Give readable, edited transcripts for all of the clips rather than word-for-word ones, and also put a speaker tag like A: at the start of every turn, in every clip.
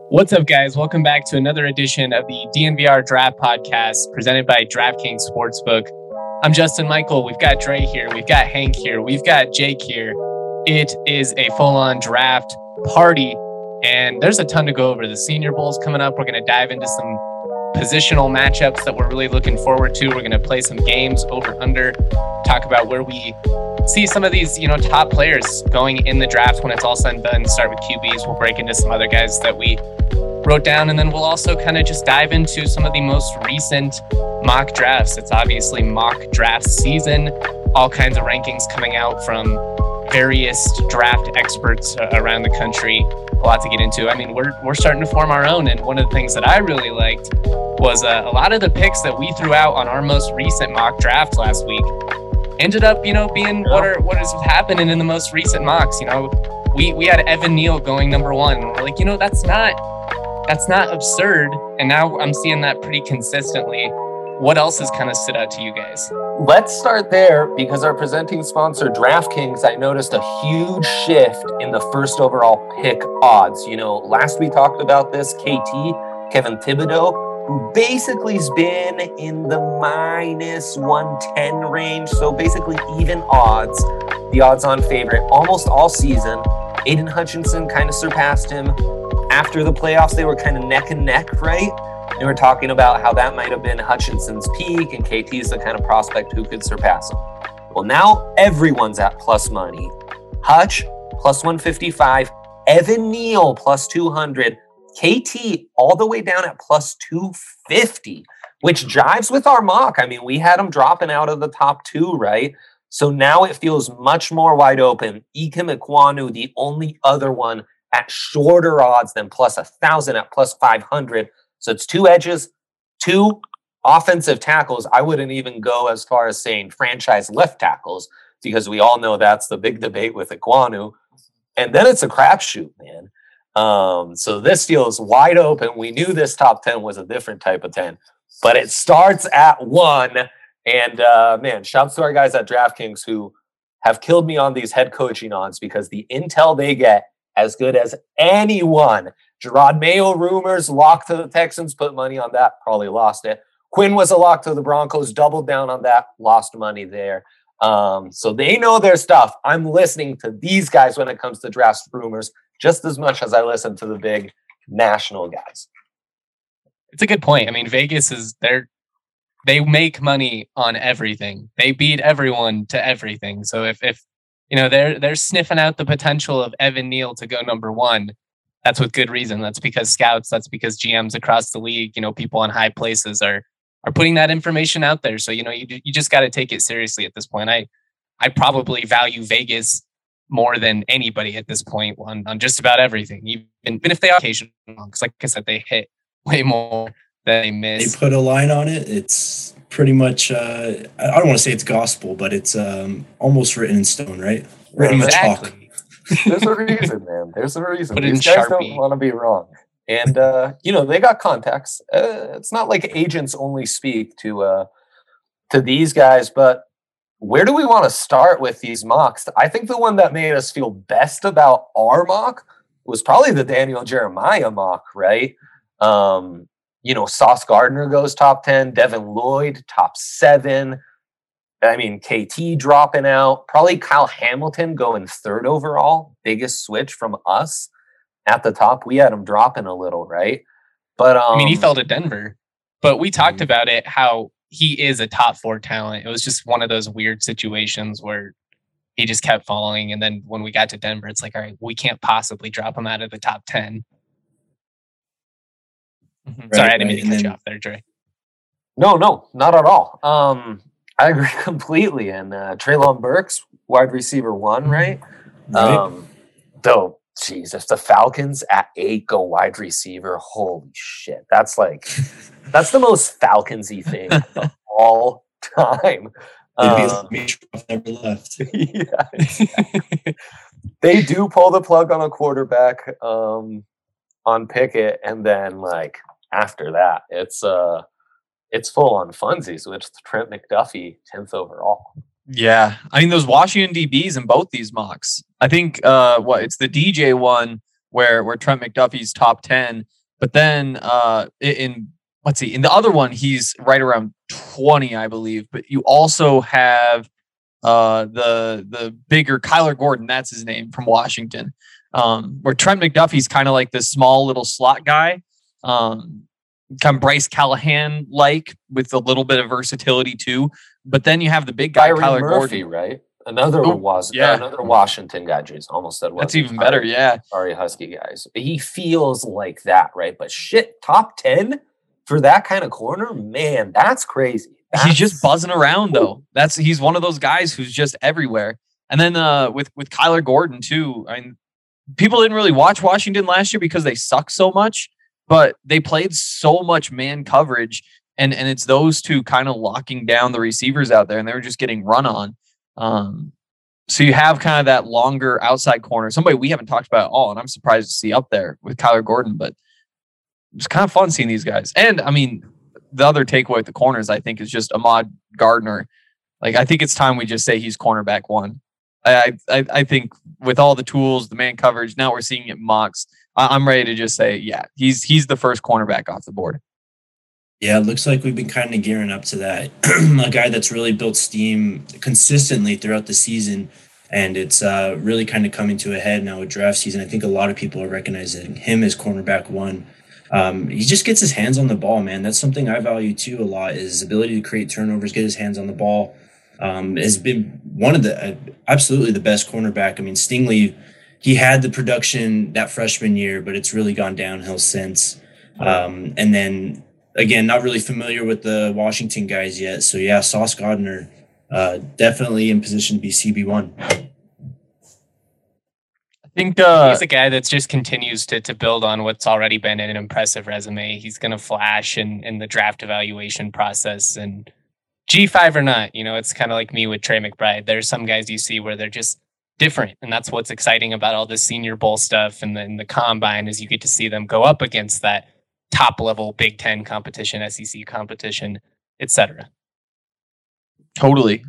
A: What's up, guys? Welcome back to another edition of the DNVR Draft Podcast presented by DraftKings Sportsbook. I'm Justin Michael. We've got Dre here. We've got Hank here. We've got Jake here. It is a full-on draft party, and there's a ton to go over. The Senior Bowl's coming up. We're going to dive into some positional matchups that we're really looking forward to. We're going to play some games over-under, talk about where we see some of these, top players going in the draft when it's all said and done. Start with QBs. We'll break into some other guys that we wrote down, and then we'll also kind of just dive into some of the most recent mock drafts. It's obviously mock draft season. All kinds of rankings coming out from various draft experts around the country. A lot to get into. I mean, we're starting to form our own, and one of the things that I really liked was a lot of the picks that we threw out on our most recent mock draft last week ended up, being what is happening in the most recent mocks. We had Evan Neal going number one, and we're like, that's not absurd. And now I'm seeing that pretty consistently. What else has kind of stood out to you guys?
B: Let's start there because our presenting sponsor, DraftKings, I noticed a huge shift in the first overall pick odds. Last we talked about this, Kevin Thibodeau, who basically has been in the minus 110 range. So basically even odds, the odds-on favorite almost all season. Aiden Hutchinson kind of surpassed him. After the playoffs, they were kind of neck and neck, right? They were talking about how that might have been Hutchinson's peak and KT's the kind of prospect who could surpass him. Well, now everyone's at plus money. Hutch, plus 155. Evan Neal, plus 200. KT, all the way down at plus 250, which jives with our mock. I mean, we had him dropping out of the top two, right? So now it feels much more wide open. Ikem Ekwonu, the only other one at shorter odds than plus 1,000 at plus 500. So it's two edges, two offensive tackles. I wouldn't even go as far as saying franchise left tackles because we all know that's the big debate with Ekwonu. And then it's a crapshoot, man. So this deal is wide open. We knew this top 10 was a different type of 10, but it starts at 1. And man, shouts to our guys at DraftKings who have killed me on these head coaching odds because the intel they get as good as anyone. Gerard Mayo rumors, lock to the Texans, put money on that, probably lost it. Quinn was a lock to the Broncos, doubled down on that, lost money there. So they know their stuff. I'm listening to these guys when it comes to draft rumors just as much as I listen to the big national guys.
A: It's a good point. I mean, Vegas they make money on everything. They beat everyone to everything. So if they're sniffing out the potential of Evan Neal to go number one, that's with good reason. That's because scouts, that's because GMs across the league, people in high places are putting that information out there. So, you just got to take it seriously at this point. I probably value Vegas more than anybody at this point on just about everything, even if they are occasional, because like I said, they hit way more than they miss.
C: They put a line on it. It's pretty much, I don't want to say it's gospel, but it's almost written in stone, right? Written
A: exactly.
C: with chalk.
B: There's a reason, man. There's a reason.
A: Put
B: These guys don't want to be wrong. And, they got contacts. It's not like agents only speak to these guys, but where do we want to start with these mocks? I think the one that made us feel best about our mock was probably the Daniel Jeremiah mock, right? Sauce Gardner goes top 10, Devin Lloyd, top 7. I mean, KT dropping out. Probably Kyle Hamilton going 3rd overall. Biggest switch from us at the top. We had him dropping a little, right? But
A: he fell to Denver. But we talked about it, how he is a top 4 talent. It was just one of those weird situations where he just kept falling. And then when we got to Denver, it's like, all right, we can't possibly drop him out of the top 10. Right, sorry, I didn't mean to cut you off there, Dre.
B: No, not at all. I agree completely. And Treylon Burks, wide receiver 1, right? Though, geez, if the Falcons at 8 go wide receiver, holy shit. That's the most Falcons-y thing of all time.
C: Never left.
B: Yeah, exactly. They do pull the plug on a quarterback on Pickett, and then after that, it's full on funsies with Trent McDuffie 10th overall.
D: Yeah. I mean, those Washington DBs in both these mocks. I think it's the DJ one where Trent McDuffie's top 10 But then in the other one, he's right around 20, I believe. But you also have the bigger Kyler Gordon, that's his name, from Washington. Where Trent McDuffie's kind of like this small little slot guy. Kind of Bryce Callahan like, with a little bit of versatility too. But then you have the big guy,
B: Byron
D: Kyler
B: Murphy,
D: Gordon.
B: right? Another Washington guy. Jeez, almost said
D: that's even better. Yeah,
B: sorry, Husky guys. He feels like that, right? But shit, top 10 for that kind of corner, man, that's crazy.
D: He's just buzzing around though. He's one of those guys who's just everywhere. And then with Kyler Gordon too. I mean, people didn't really watch Washington last year because they suck so much, but they played so much man coverage, and it's those two kind of locking down the receivers out there, and they were just getting run on. So you have kind of that longer outside corner, somebody we haven't talked about at all, and I'm surprised to see up there with Kyler Gordon, but it's kind of fun seeing these guys. And I mean, the other takeaway with the corners, I think, is just Ahmad Gardner. Like, I think it's time we just say he's cornerback one. I think with all the tools, the man coverage, now we're seeing it in mocks. I'm ready to just say, yeah, he's the first cornerback off the board.
C: Yeah, it looks like we've been kind of gearing up to that. A guy that's really built steam consistently throughout the season, and it's really kind of coming to a head now with draft season. I think a lot of people are recognizing him as cornerback one. He just gets his hands on the ball, man. That's something I value too a lot, is his ability to create turnovers, get his hands on the ball. Has been one of the absolutely the best cornerback. I mean, Stingley, he had the production that freshman year, but it's really gone downhill since. And then again, not really familiar with the Washington guys yet. So yeah, Sauce Gardner, definitely in position to be CB1.
A: I think he's a guy that just continues to build on what's already been an impressive resume. He's going to flash in the draft evaluation process, and G5 or not, it's kind of like me with Trey McBride. There's some guys you see where they're just different, and that's what's exciting about all this Senior Bowl stuff and the combine, is you get to see them go up against that top level Big Ten competition, SEC competition, etc.
D: Totally.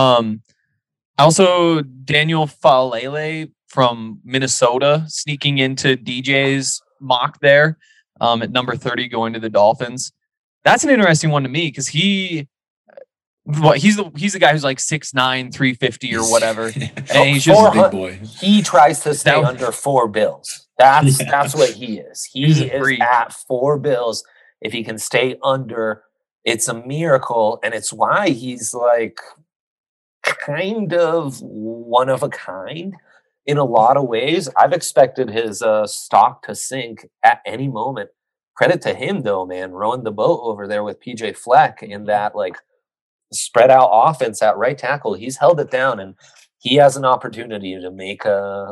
D: Also, Daniel Falele from Minnesota sneaking into DJ's mock there at number 30, going to the Dolphins. That's an interesting one to me, because he's the guy who's like 6'9", 350 or whatever. And he's just a big boy.
B: He tries to stay under 4 bills. That's what he is. He is at 4 bills. If he can stay under, it's a miracle. And it's why he's like kind of one of a kind in a lot of ways. I've expected his stock to sink at any moment. Credit to him though, man, rowing the boat over there with PJ Fleck in that like spread out offense at right tackle. He's held it down, and he has an opportunity to make a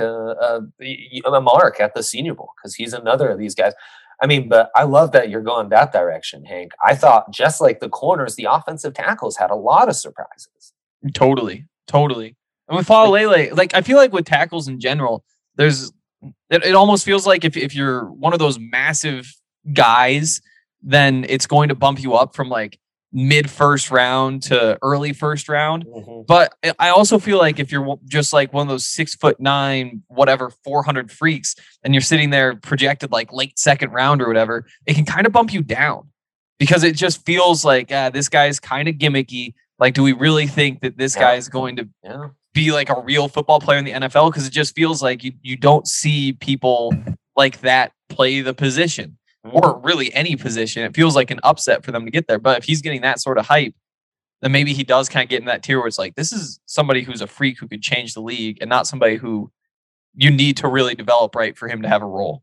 B: mark at the Senior Bowl, because he's another of these guys. I mean, but I love that you're going that direction, Hank. I thought, just like the corners, the offensive tackles had a lot of surprises.
D: Totally. And with Falele, like, I feel like with tackles in general, it almost feels like if you're one of those massive guys, then it's going to bump you up from like mid first round to early first round. Mm-hmm. But I also feel like if you're just like one of those 6'9", whatever, 400 freaks, and you're sitting there projected like late second round or whatever, it can kind of bump you down, because it just feels like this guy's kind of gimmicky. Like, do we really think that this guy is going to be like a real football player in the NFL? Because it just feels like you don't see people like that play the position, or really any position. It feels like an upset for them to get there. But if he's getting that sort of hype, then maybe he does kind of get in that tier where it's like, this is somebody who's a freak who could change the league, and not somebody who you need to really develop right for him to have a role.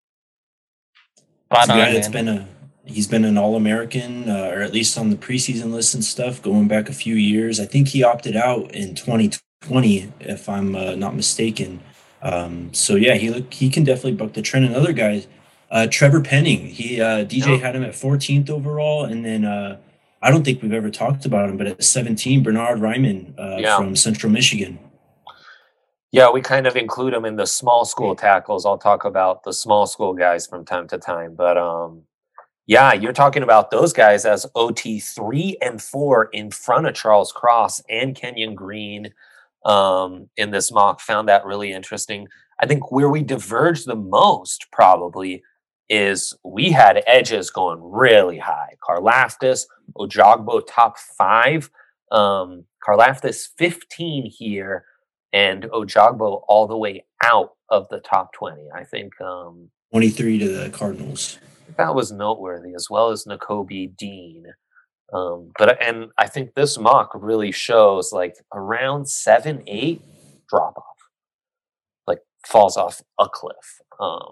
C: He's been an All-American, or at least on the preseason list and stuff, going back a few years. I think he opted out in 2020, if I'm not mistaken. So yeah, he can definitely buck the trend. Another guy, Trevor Penning. DJ had him at 14th overall, and then I don't think we've ever talked about him, but at 17, Bernard Ryman from Central Michigan.
B: Yeah, we kind of include him in the small school tackles. I'll talk about the small school guys from time to time, but yeah, you're talking about those guys as OT 3 and 4 in front of Charles Cross and Kenyon Green in this mock. Found that really interesting. I think where we diverge the most probably is we had edges going really high. Karlaftis, Ojogbo top 5. Karlaftis 15 here, and Ojogbo all the way out of the top 20. I think
C: 23 to the Cardinals.
B: That was noteworthy, as well as Nakobe Dean. And I think this mock really shows like around 7-8 drop off, like falls off a cliff.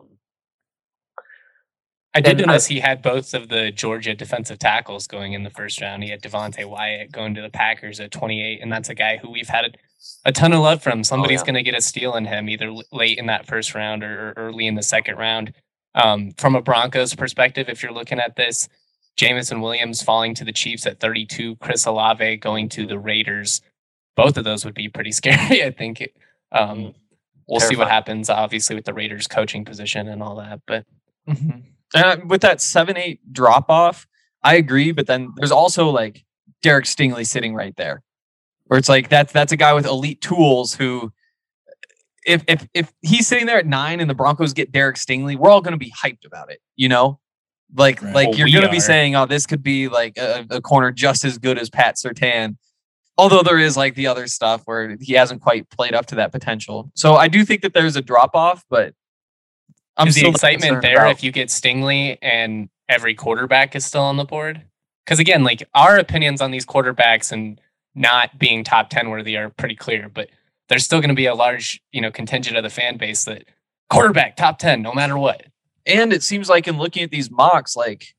A: I did notice he had both of the Georgia defensive tackles going in the first round. He had Devontae Wyatt going to the Packers at 28, and that's a guy who we've had a ton of love from. Somebody's going to get a steal in him, either late in that first round or early in the second round. From a Broncos perspective, if you're looking at this, Jameson Williams falling to the Chiefs at 32, Chris Olave going to the Raiders. Both of those would be pretty scary, I think. We'll see what happens, obviously, with the Raiders coaching position and all that. But
D: with that 7-8 drop off, I agree. But then there's also like Derek Stingley sitting right there, where it's like that's a guy with elite tools who, if he's sitting there at 9 and the Broncos get Derek Stingley, we're all going to be hyped about it, you know? Like you're going to be saying, oh, this could be like a corner just as good as Pat Surtain. Although there is like the other stuff where he hasn't quite played up to that potential. So I do think that there's a drop off, but
A: I'm still the excitement there if you get Stingley and every quarterback is still on the board. Because again, like our opinions on these quarterbacks and not being top 10 worthy are pretty clear, but there's still going to be a large, contingent of the fan base that quarterback top 10, no matter what.
D: And it seems like in looking at these mocks, like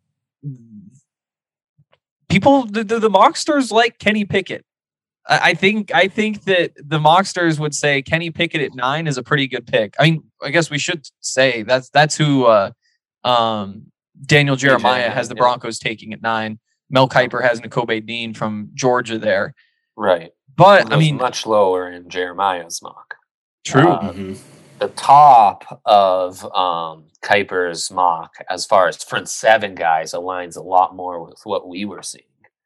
D: people, the mocksters like Kenny Pickett. I think that the mocksters would say Kenny Pickett at 9 is a pretty good pick. I mean, I guess we should say that's who Daniel Jeremiah has the Broncos taking at 9. Mel Kiper has Nakobe Dean from Georgia there.
B: Right.
D: But I mean,
B: much lower in Jeremiah's mock.
D: True.
B: The top of Kiper's mock, as far as front 7 guys, aligns a lot more with what we were seeing.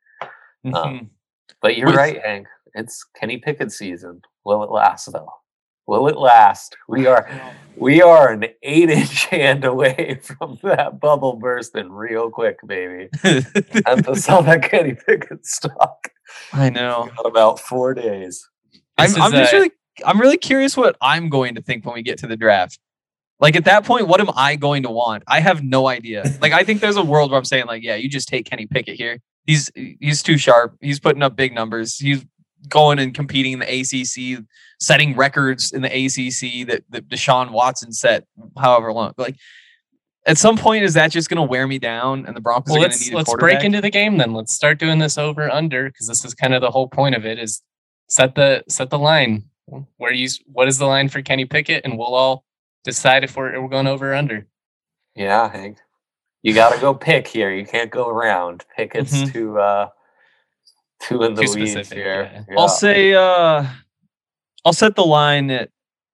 B: But you're right, Hank. It's Kenny Pickett season. Will it last, though? Will it last? We are an 8-inch hand away from that bubble bursting real quick, baby. And to sell that Kenny Pickett stock.
D: I know.
B: Got about 4 days.
D: I'm really curious what I'm going to think when we get to the draft. Like at that point, what am I going to want? I have no idea. Like I think there's a world where I'm saying like, yeah, you just take Kenny Pickett here. He's too sharp. He's putting up big numbers. He's going and competing in the ACC, setting records in the ACC that Deshaun Watson set however long. Like at some point, is that just going to wear me down and the Broncos are going to need a quarterback?
A: Let's break into the game then. Let's start doing this over under because this is kind of the whole point of it is set the line. What is the line for Kenny Pickett? And we'll all decide if we're going over or under.
B: Yeah, Hank. You got to go pick here. You can't go around. Pickett's too in the weeds
A: specific,
B: here.
A: Yeah.
D: Yeah. I'll say I'll set the line at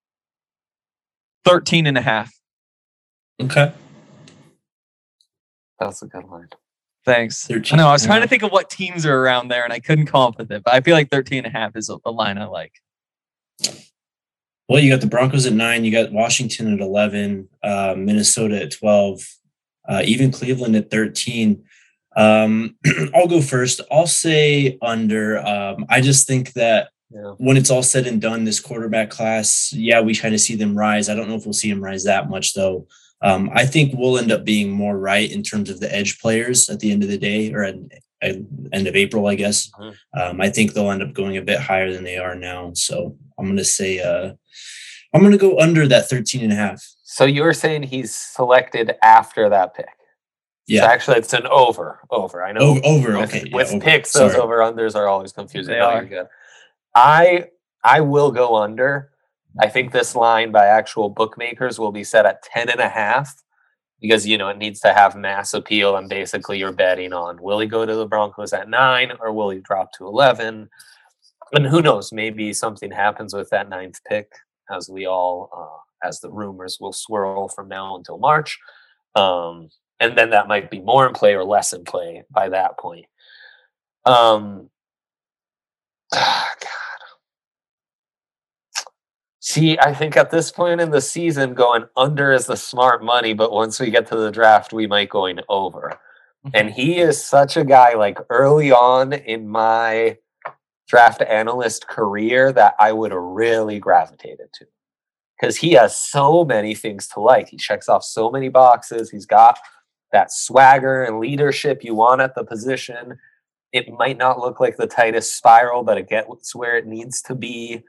D: 13.5.
C: Okay.
B: That's a good line.
D: Thanks.
C: 13.
D: I know. I was trying to think of what teams are around there, and I couldn't come up with it. But I feel like 13.5 is a line I like.
C: Well, you got the Broncos at 9. You got Washington at 11. Minnesota at 12. Even Cleveland at 13. I'll go first. I'll say under. I just think that when it's all said and done, this quarterback class, we kind of see them rise. I don't know if we'll see them rise that much, though. I think we'll end up being more right in terms of the edge players at the end of the day, or at end of April, I guess. I think they'll end up going a bit higher than they are now. So I'm going to say I'm going to go under that 13.5.
B: So you're saying he's selected after that pick?
C: Yeah.
B: So actually, it's an over. I know.
C: Over.
B: With,
C: Okay.
B: With
C: over.
B: picks,
C: Sorry.
B: those over-unders are always confusing.
D: They are.
B: Good. I will go under. I think this line by actual bookmakers will be set at 10.5 because, it needs to have mass appeal. And basically, you're betting on will he go to the Broncos at 9 or will he drop to 11? And who knows? Maybe something happens with that 9th pick as we all, as the rumors will swirl from now until March. And then that might be more in play or less in play by that point. God. See, I think at this point in the season, going under is the smart money, but once we get to the draft, we might going over. And he is such a guy, like early on in my draft analyst career, that I would have really gravitated to. Because he has so many things to like. He checks off so many boxes. He's got that swagger and leadership you want at the position. It might not look like the tightest spiral, but it gets where it needs to be.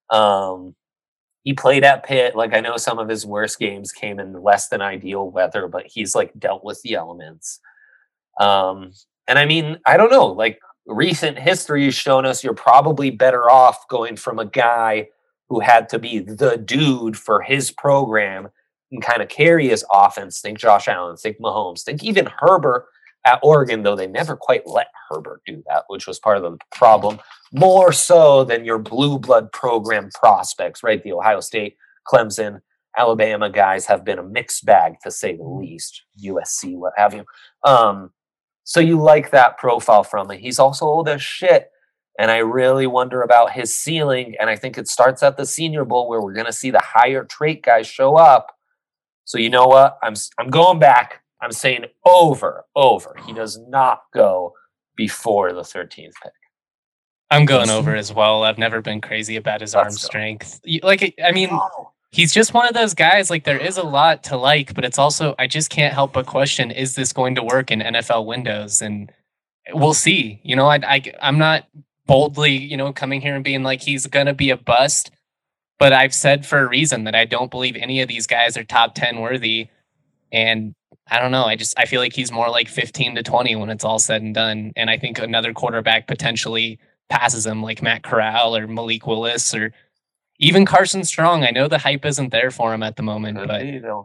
B: He played at Pitt. Like, I know some of his worst games came in less than ideal weather, but he's like dealt with the elements. And I mean, I don't know, like recent history has shown us you're probably better off going from a guy who had to be the dude for his program and kind of carry his offense. Think Josh Allen, think Mahomes, think even Herbert at Oregon, though they never quite let Herbert do that, which was part of the problem, more so than your blue blood program prospects, right? The Ohio State, Clemson, Alabama guys have been a mixed bag, to say the least, USC, what have you. So you like that profile from him. He's also old as shit, and I really wonder about his ceiling, and I think it starts at the Senior Bowl where we're going to see the higher trait guys show up. So you know what? I'm going back. I'm saying over. He does not go before the 13th pick.
A: I'm going over as well. I've never been crazy about his arm strength. Like, I mean, he's just one of those guys. Like, there is a lot to like, but it's also, I just can't help but question, is this going to work in NFL windows? And we'll see. You know, I'm not boldly, you know, coming here and being like, he's going to be a bust. But I've said for a reason that I don't believe any of these guys are top 10 worthy. And I don't know. I feel like he's more like 15 to 20 when it's all said and done. And I think another quarterback potentially passes him, like Matt Corral or Malik Willis or even Carson Strong. I know the hype isn't there for him at the moment, but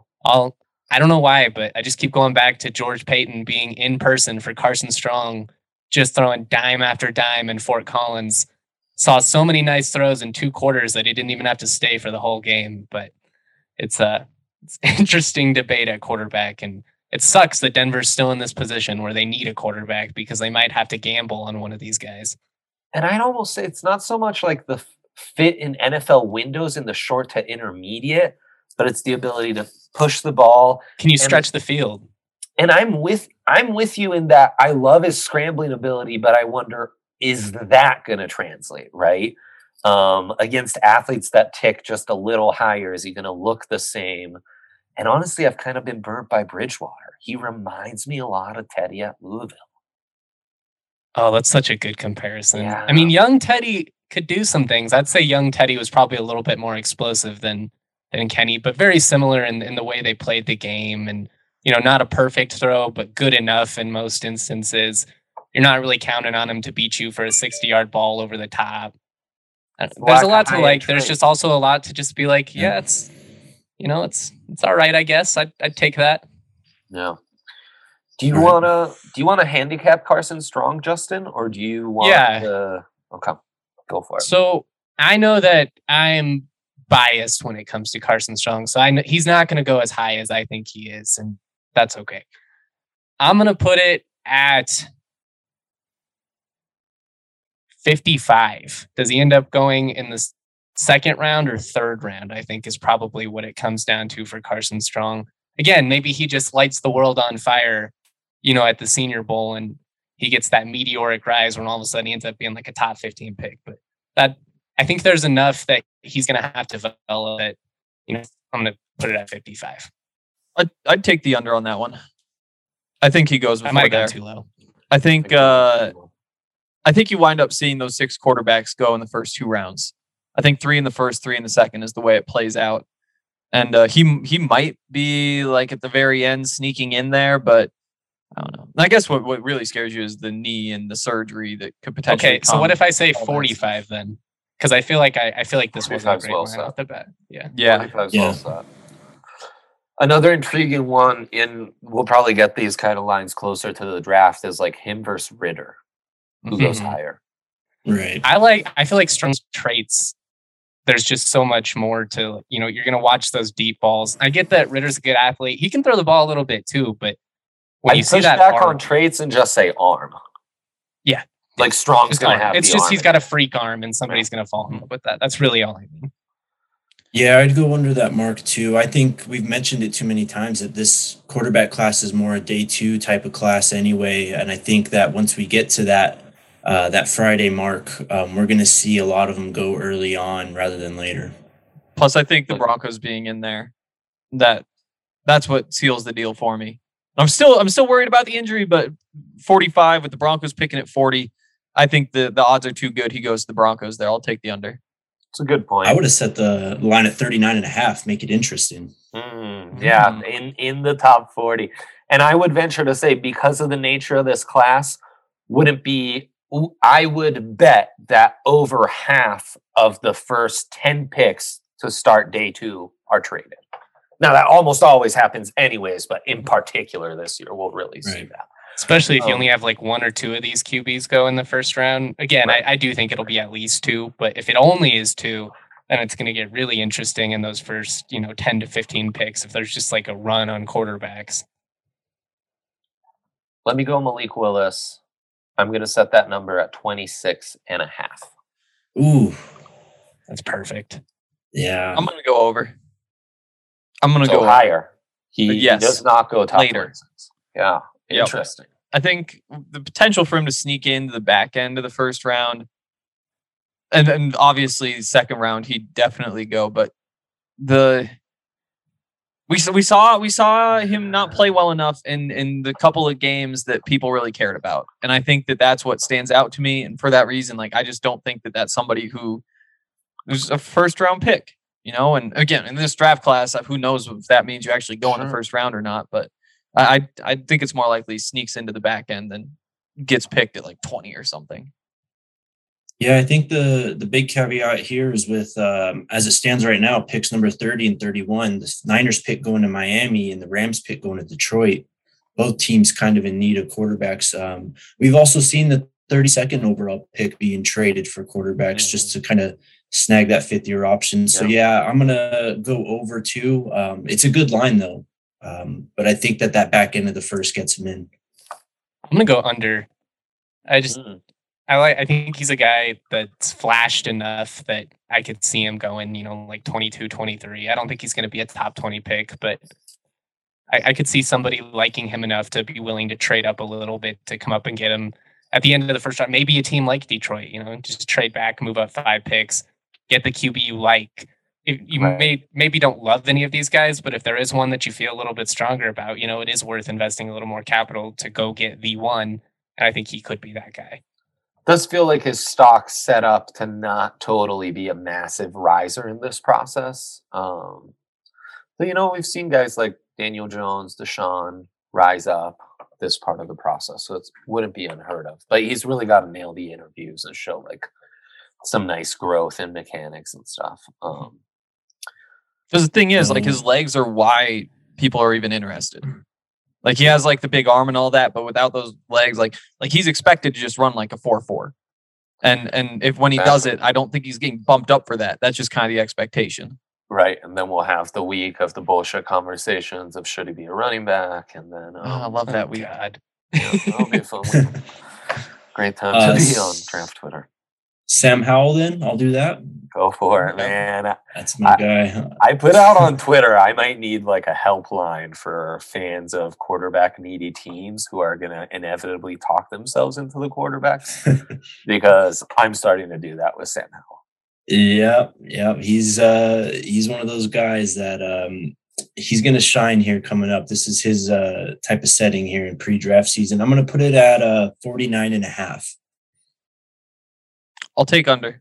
A: I don't know why, but I just keep going back to George Payton being in person for Carson Strong, just throwing dime after dime in Fort Collins. Saw so many nice throws in 2 quarters that he didn't even have to stay for the whole game. But it's interesting debate at quarterback, and it sucks that Denver's still in this position where they need a quarterback because they might have to gamble on one of these guys.
B: And I'd almost say it's not so much like the fit in NFL windows in the short to intermediate, but it's the ability to push the ball.
A: Can you stretch the field?
B: And I'm with you in that I love his scrambling ability, but I wonder, is that going to translate, right? Against athletes that tick just a little higher, is he going to look the same? And honestly, I've kind of been burnt by Bridgewater. He reminds me a lot of Teddy at Louisville.
A: Oh, that's such a good comparison.
B: Yeah.
A: I mean, young Teddy could do some things. I'd say young Teddy was probably a little bit more explosive than Kenny, but very similar in the way they played the game. And, you know, not a perfect throw, but good enough in most instances. You're not really counting on him to beat you for a 60-yard ball over the top. There's a lot to like. There's just also a lot to just be like, yeah, it's, you know, it's all right, I guess. I'd take that.
B: No. Do you wanna handicap Carson Strong, Justin, or do you want to? Okay, go for it.
A: So I know that I'm biased when it comes to Carson Strong, so I know he's not going to go as high as I think he is, and that's okay. I'm going to put it at 55. Does he end up going in the second round or third round? I think is probably what it comes down to for Carson Strong. Again, maybe he just lights the world on fire, you know, at the Senior Bowl, and he gets that meteoric rise when all of a sudden he ends up being like a top 15 pick. But that, I think there's enough that he's going to have to develop it. You know, I'm going to put it at 55.
D: I'd take the under on that one. I think he goes before
A: I might have
D: there.
A: gone too low.
D: I think you wind up seeing those 6 quarterbacks go in the first 2 rounds. I think 3 in the first, 3 in the second is the way it plays out. And he might be like at the very end sneaking in there, but I don't know. I guess what really scares you is the knee and the surgery that could potentially.
A: Okay, so what if I say 45 then? Because I feel like this wasn't a great one off the bat.
D: Yeah.
B: Well, another intriguing one we'll probably get these kind of lines closer to the draft is like him versus Ritter. Who goes higher?
C: Right.
A: I feel like Strong's traits, there's just so much more to, you know, you're going to watch those deep balls. I get that Ritter's a good athlete. He can throw the ball a little bit too, but when you see that
B: back
A: arm,
B: on traits and just say arm.
A: Yeah.
B: Like Strong's going to have
A: it's
B: the
A: just
B: arm.
A: he's got a freak arm and somebody's going to fall in love with that. That's really all I mean.
C: Yeah, I'd go under that mark too. I think we've mentioned it too many times that this quarterback class is more a day two type of class anyway, and I think that once we get to that Friday mark, we're going to see a lot of them go early on rather than later.
D: Plus, I think the Broncos being in there, that's what seals the deal for me. I'm still worried about the injury, but 45 with the Broncos picking at 40, I think the odds are too good. He goes to the Broncos there. I'll take the under.
B: It's a good point.
C: I would have set the line at 39.5, make it interesting.
B: Yeah, in the top 40. And I would venture to say, because of the nature of this class, I would bet that over half of the first 10 picks to start day two are traded. Now, that almost always happens anyways, but in particular this year, we'll really see that.
A: Especially if you only have like one or two of these QBs go in the first round. Again, I do think it'll be at least two, but if it only is two, then it's going to get really interesting in those first, 10 to 15 picks if there's just like a run on quarterbacks.
B: Let me go Malik Willis. I'm going to set that number at 26.5.
C: Ooh,
A: that's perfect.
C: Yeah.
D: I'm going to go over. I'm going to go
B: higher. He does not go top
D: later.
B: 26. Yeah. Interesting.
D: Yep. I think the potential for him to sneak into the back end of the first round, and obviously second round, he'd definitely go. But we saw him not play well enough in the couple of games that people really cared about, and I think that's what stands out to me. And for that reason, I just don't think that that's somebody who was a first round pick. And again, in this draft class, who knows if that means you actually go in the first round or not, but I think it's more likely sneaks into the back end than gets picked at 20 or something.
C: Yeah, I think the big caveat here is with, as it stands right now, picks number 30 and 31, the Niners pick going to Miami and the Rams pick going to Detroit. Both teams kind of in need of quarterbacks. We've also seen the 32nd overall pick being traded for quarterbacks just to kind of snag that fifth-year option. So, yeah, I'm going to go over too. It's a good line, though. But I think that back end of the first gets him in.
A: I'm going to go under. I think he's a guy that's flashed enough that I could see him going, 22, 23. I don't think he's going to be a top 20 pick, but I could see somebody liking him enough to be willing to trade up a little bit to come up and get him at the end of the first round. Maybe a team like Detroit, just trade back, move up 5 picks, get the QB you like. You maybe don't love any of these guys, but if there is one that you feel a little bit stronger about, it is worth investing a little more capital to go get the one. And I think he could be that guy.
B: Does feel like his stock's set up to not totally be a massive riser in this process. But, we've seen guys like Daniel Jones, Deshaun rise up this part of the process. So it wouldn't be unheard of. But he's really got to nail the interviews and show some nice growth in mechanics and stuff.
D: Because the thing is, his legs are why people are even interested. He has the big arm and all that, but without those legs, he's expected to just run a 4.4. And if when he does it, I don't think he's getting bumped up for that. That's just kind of the expectation.
B: Right. And then we'll have the week of the bullshit conversations of should he be a running back? And then
D: I love that week.
B: That'll be a fun week. Great time to be on draft Twitter.
C: Sam Howell, then I'll do that.
B: Go for it, man.
C: That's my guy.
B: I put out on Twitter, I might need a helpline for fans of quarterback needy teams who are going to inevitably talk themselves into the quarterbacks because I'm starting to do that with Sam Howell.
C: Yeah. He's one of those guys that he's going to shine here coming up. This is his type of setting here in pre-draft season. I'm going to put it at 49.5.
D: I'll take under.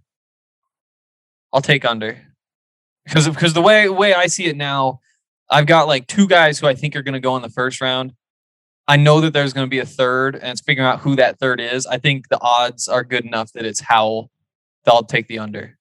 D: Because the way I see it now, I've got 2 guys who I think are going to go in the first round. I know that there's going to be a third, and it's figuring out who that third is. I think the odds are good enough that it's Howell. I'll take the under.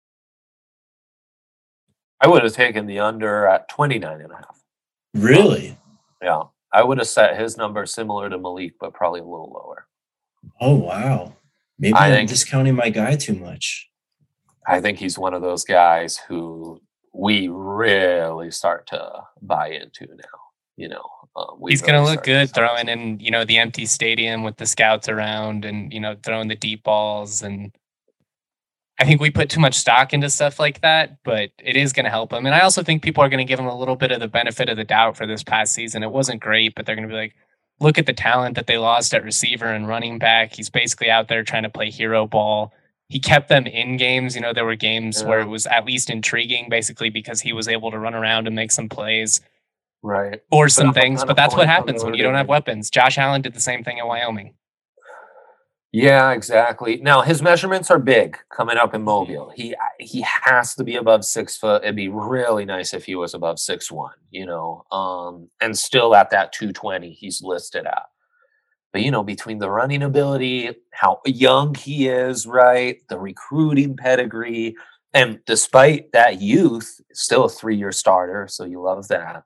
B: I would have taken the under at 29.5.
C: Really?
B: Yeah. I would have set his number similar to Malik, but probably a little lower.
C: Oh, wow. Maybe I'm discounting my guy too much.
B: I think he's one of those guys who we really start to buy into now.
A: He's going to look good throwing in, the empty stadium with the scouts around and, throwing the deep balls. And I think we put too much stock into stuff like that, but it is going to help him. And I also think people are going to give him a little bit of the benefit of the doubt for this past season. It wasn't great, but they're going to be like, look at the talent that they lost at receiver and running back. He's basically out there trying to play hero ball. He kept them in games. You know, there were games where it was at least intriguing, basically because he was able to run around and make some plays.
B: Right.
A: Or some things, but that's what happens when you don't have weapons. Josh Allen did the same thing in Wyoming.
B: Yeah, exactly. Now his measurements are big coming up in Mobile. He has to be above 6 foot. It'd be really nice if he was above 6'1", and still at that 220 he's listed at. But between the running ability, how young he is, right, the recruiting pedigree, and despite that youth, still a 3-year starter, so you love that.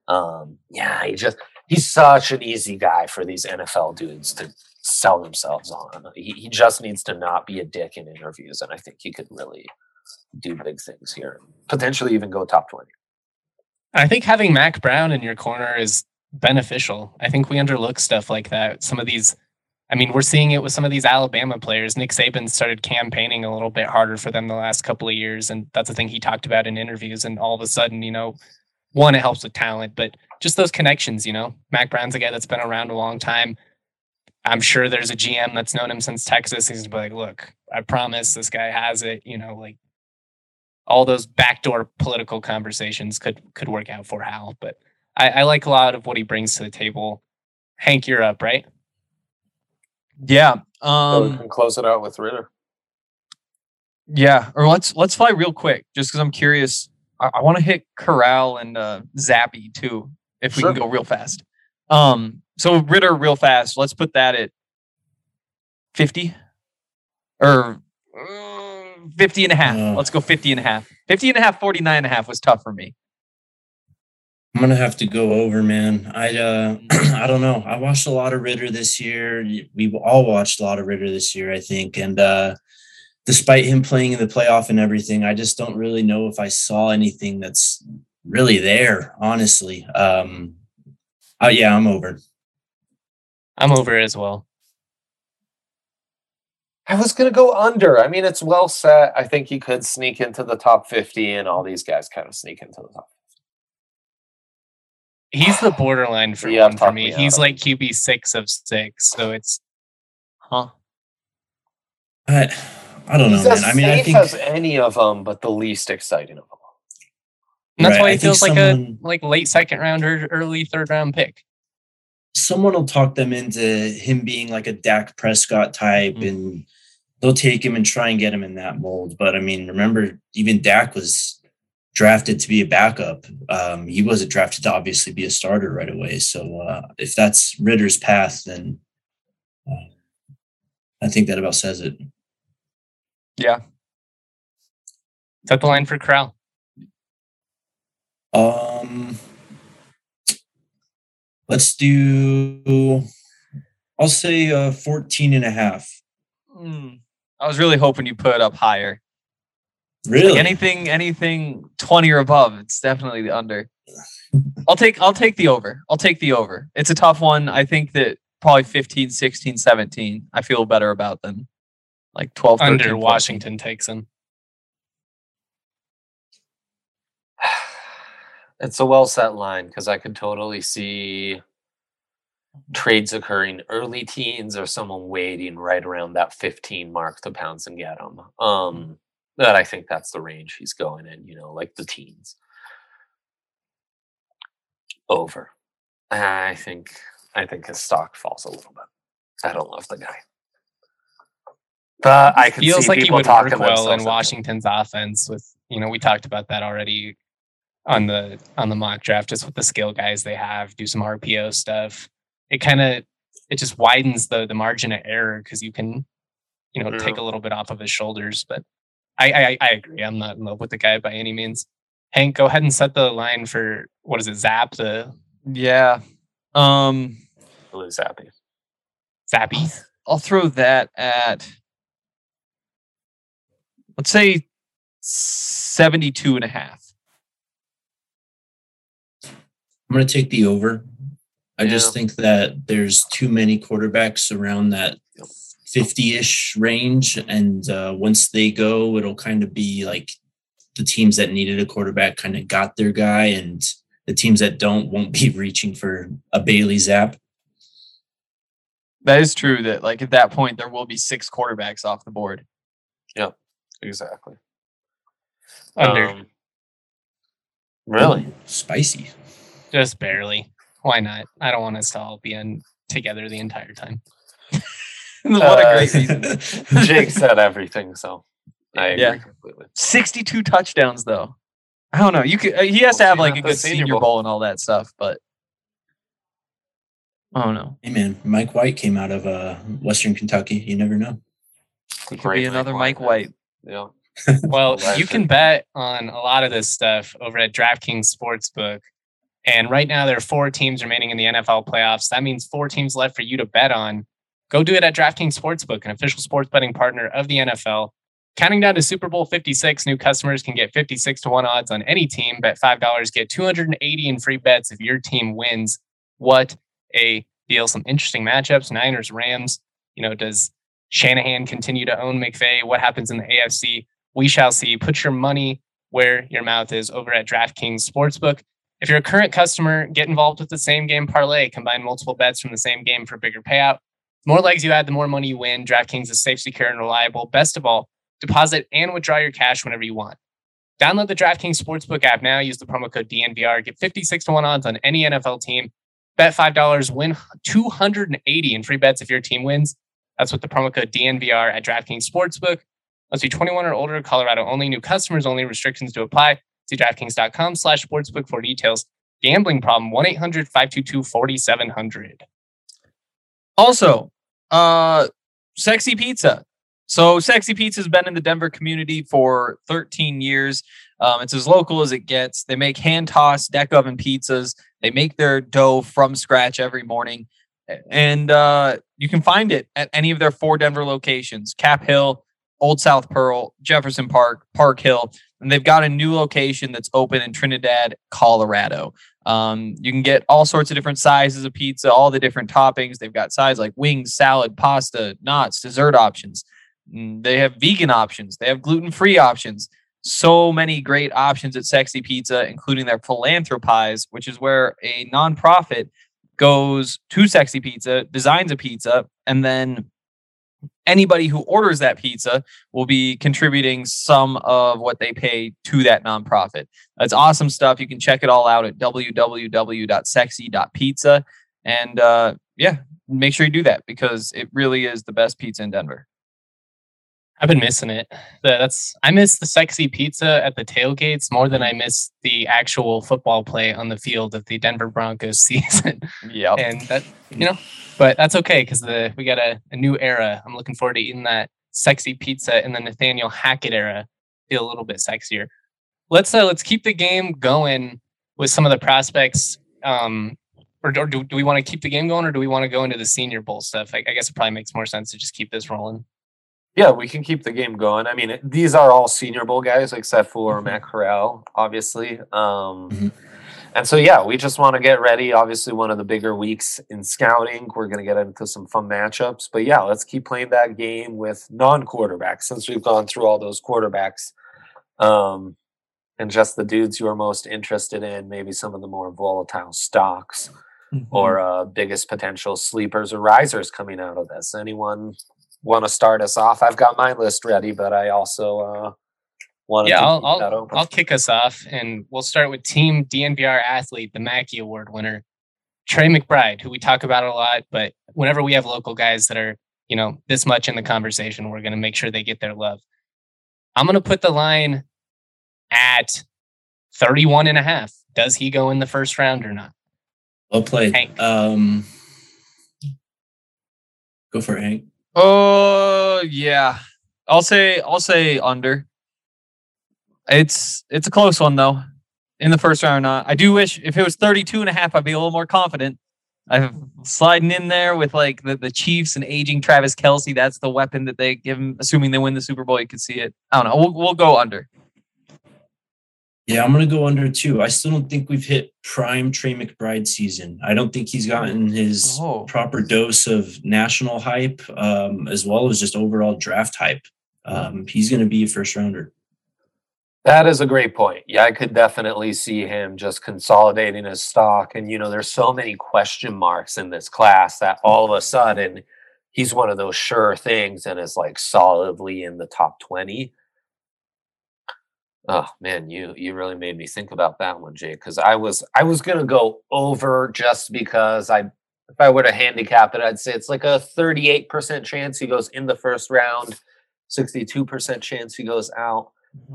B: He's such an easy guy for these NFL dudes to sell themselves on. He just needs to not be a dick in interviews, and I think he could really do big things here. Potentially even go top 20.
A: I think having Mac Brown in your corner is beneficial. I think we underlook stuff like that. Some of these, we're seeing it with some of these Alabama players. Nick Saban started campaigning a little bit harder for them the last couple of years, and that's a thing he talked about in interviews. And all of a sudden, one, it helps with talent, but just those connections, Mac Brown's a guy that's been around a long time. I'm sure there's a GM that's known him since Texas. He's like, look, I promise this guy has it. Like all those backdoor political conversations could work out for Hal. But I like a lot of what he brings to the table. Hank, you're up, right?
D: Yeah.
B: So we can close it out with Ritter.
D: Yeah. Or let's fly real quick, just because I'm curious. I want to hit Corral and Zappy too, if we can go real fast. So Ritter real fast. Let's put that at 50 or 50 and a half. Let's go 50 and a half. 50 and a half, 49 and a half was tough for me.
C: I'm going to have to go over, man. I don't know. I watched a lot of Ritter this year. We've all watched a lot of Ritter this year, I think. And despite him playing in the playoff and everything, I just don't really know if I saw anything that's really there, honestly. I'm over.
A: I'm over as well.
B: I was going to go under. It's well set. I think he could sneak into the top 50, and all these guys kind of sneak into the top 50.
A: He's the borderline for one for me. He's like QB 6 of 6, so it's
C: I don't know, man.
B: I think as any of them, but the least exciting of them.
A: And that's why he feels like a late second round or early third round pick.
C: Someone will talk them into him being like a Dak Prescott type, and they'll take him and try and get him in that mold. But remember, even Dak was drafted to be a backup. He wasn't drafted to obviously be a starter right away. So if that's Ritter's path, then I think that about says it.
D: Yeah.
A: Is that the line for Corral?
C: Let's do, I'll say 14 and a half.
D: I was really hoping you put it up higher.
C: Really?
D: Like anything 20 or above, it's definitely the under. I'll take the over. I'll take the over. It's a tough one. I think that probably 15, 16, 17, I feel better about than like 12, 13,
A: under
D: 14.
A: Washington takes him.
B: It's a well set line because I could totally see trades occurring early teens or someone waiting right around that 15 mark to pounce and get him. But I think that's the range he's going in, like the teens. Over. I think his stock falls a little bit. I don't love the guy. But I can
A: feels
B: see
A: like he
B: people
A: would
B: talking
A: work well in
B: themselves
A: Washington's offense with, we talked about that already on the mock draft, just with the skill guys they have, do some RPO stuff. It just widens the margin of error because you can, take a little bit off of his shoulders. But I agree. I'm not in love with the guy by any means. Hank, go ahead and set the line for, what is it, Zap?
D: Yeah.
B: Zappy.
A: Zappy?
D: I'll throw that at, let's say 72 and a half.
C: I'm going to take the over. I just think that there's too many quarterbacks around that 50-ish range. And once they go, it'll kind of be like the teams that needed a quarterback kind of got their guy, and the teams that don't won't be reaching for a Bailey Zapp.
D: That is true that like at that point, there will be 6 quarterbacks off the board.
B: Yeah, exactly.
A: Under.
B: Really?
C: Spicy.
A: Just barely. Why not? I don't want us to all be together the entire time.
D: What a great reason.
B: Jake said everything, so I agree completely.
D: 62 touchdowns, though. I don't know. He has to have like a good Senior Bowl and all that stuff, but I don't know.
C: Hey man, Mike White came out of Western Kentucky. You never know.
D: It could be another Mike White.
B: Yeah.
A: Well, you can bet on a lot of this stuff over at DraftKings Sportsbook. And right now there are 4 teams remaining in the NFL playoffs. That means 4 teams left for you to bet on. Go do it at DraftKings Sportsbook, an official sports betting partner of the NFL. Counting down to Super Bowl 56, new customers can get 56 to 1 odds on any team. Bet $5, get 280 in free bets if your team wins. What a deal. Some interesting matchups. Niners, Rams. Does Shanahan continue to own McVay? What happens in the AFC? We shall see. Put your money where your mouth is over at DraftKings Sportsbook. If you're a current customer, get involved with the same game parlay. Combine multiple bets from the same game for a bigger payout. The more legs you add, the more money you win. DraftKings is safe, secure, and reliable. Best of all, deposit and withdraw your cash whenever you want. Download the DraftKings Sportsbook app now. Use the promo code DNVR. Get 56 to 1 odds on any NFL team. Bet $5, win 280 in free bets if your team wins. That's with the promo code DNVR at DraftKings Sportsbook. Must be 21 or older. Colorado only. New customers only. Restrictions to apply. See DraftKings.com/sportsbook for details. Gambling problem, 1-800-522-4700.
D: Also, Sexy Pizza. So Sexy Pizza has been in the Denver community for 13 years. It's as local as it gets. They make hand-tossed deck oven pizzas. They make their dough from scratch every morning. And you can find it at any of their 4 Denver locations: Cap Hill, Old South Pearl, Jefferson Park, Park Hill. And they've got a new location that's open in Trinidad, Colorado. You can get all sorts of different sizes of pizza, all the different toppings. They've got sides like wings, salad, pasta, knots, dessert options. They have vegan options. They have gluten-free options. So many great options at Sexy Pizza, including their Philanthropies, which is where a nonprofit goes to Sexy Pizza, designs a pizza, and then anybody who orders that pizza will be contributing some of what they pay to that nonprofit. That's awesome stuff. You can check it all out at www.sexy.pizza. And make sure you do that because it really is the best pizza in Denver.
A: I've been missing it. I miss the Sexy Pizza at the tailgates more than I miss the actual football play on the field of the Denver Broncos season.
D: Yeah,
A: and that but that's okay because we got a new era. I'm looking forward to eating that Sexy Pizza in the Nathaniel Hackett era. Feel a little bit sexier. Let's keep the game going with some of the prospects. Or do we want to keep the game going, or do we want to go into the Senior Bowl stuff? I guess it probably makes more sense to just keep this rolling.
B: Yeah, we can keep the game going. I mean, these are all Senior Bowl guys except for Matt Corral, obviously. And so, yeah, we just want to get ready. Obviously, one of the bigger weeks in scouting. We're going to get into some fun matchups. But, yeah, let's keep playing that game with non-quarterbacks since we've gone through all those quarterbacks. And just the dudes you are most interested in, maybe some of the more volatile stocks or biggest potential sleepers or risers coming out of this. Anyone want to start us off? I've got my list ready, but I also want to keep that open.
A: I'll kick us off, and we'll start with Team DNVR athlete, the Mackey Award winner, Trey McBride, who we talk about a lot, but whenever we have local guys that are, this much in the conversation, we're going to make sure they get their love. I'm going to put the line at 31.5. Does he go in the first round or not?
C: Well played.
A: Hank.
C: Go for it, Hank.
D: Oh yeah, I'll say under. It's a close one though, in the first round or not. I do wish if it was 32.5, I'd be a little more confident. I'm sliding in there with like the Chiefs and aging Travis Kelce. That's the weapon that they give him, assuming they win the Super Bowl. You can see it. I don't know. We'll go under.
C: Yeah, I'm going to go under too. I still don't think we've hit prime Trey McBride season. I don't think he's gotten his proper dose of national hype, as well as just overall draft hype. He's going to be a first rounder.
B: That is a great point. Yeah, I could definitely see him just consolidating his stock. And, there's so many question marks in this class that all of a sudden he's one of those sure things and is like solidly in the top 20. Oh man, you really made me think about that one, Jake, because I was gonna go over just because if I were to handicap it, I'd say it's like a 38% chance he goes in the first round, 62% chance he goes out.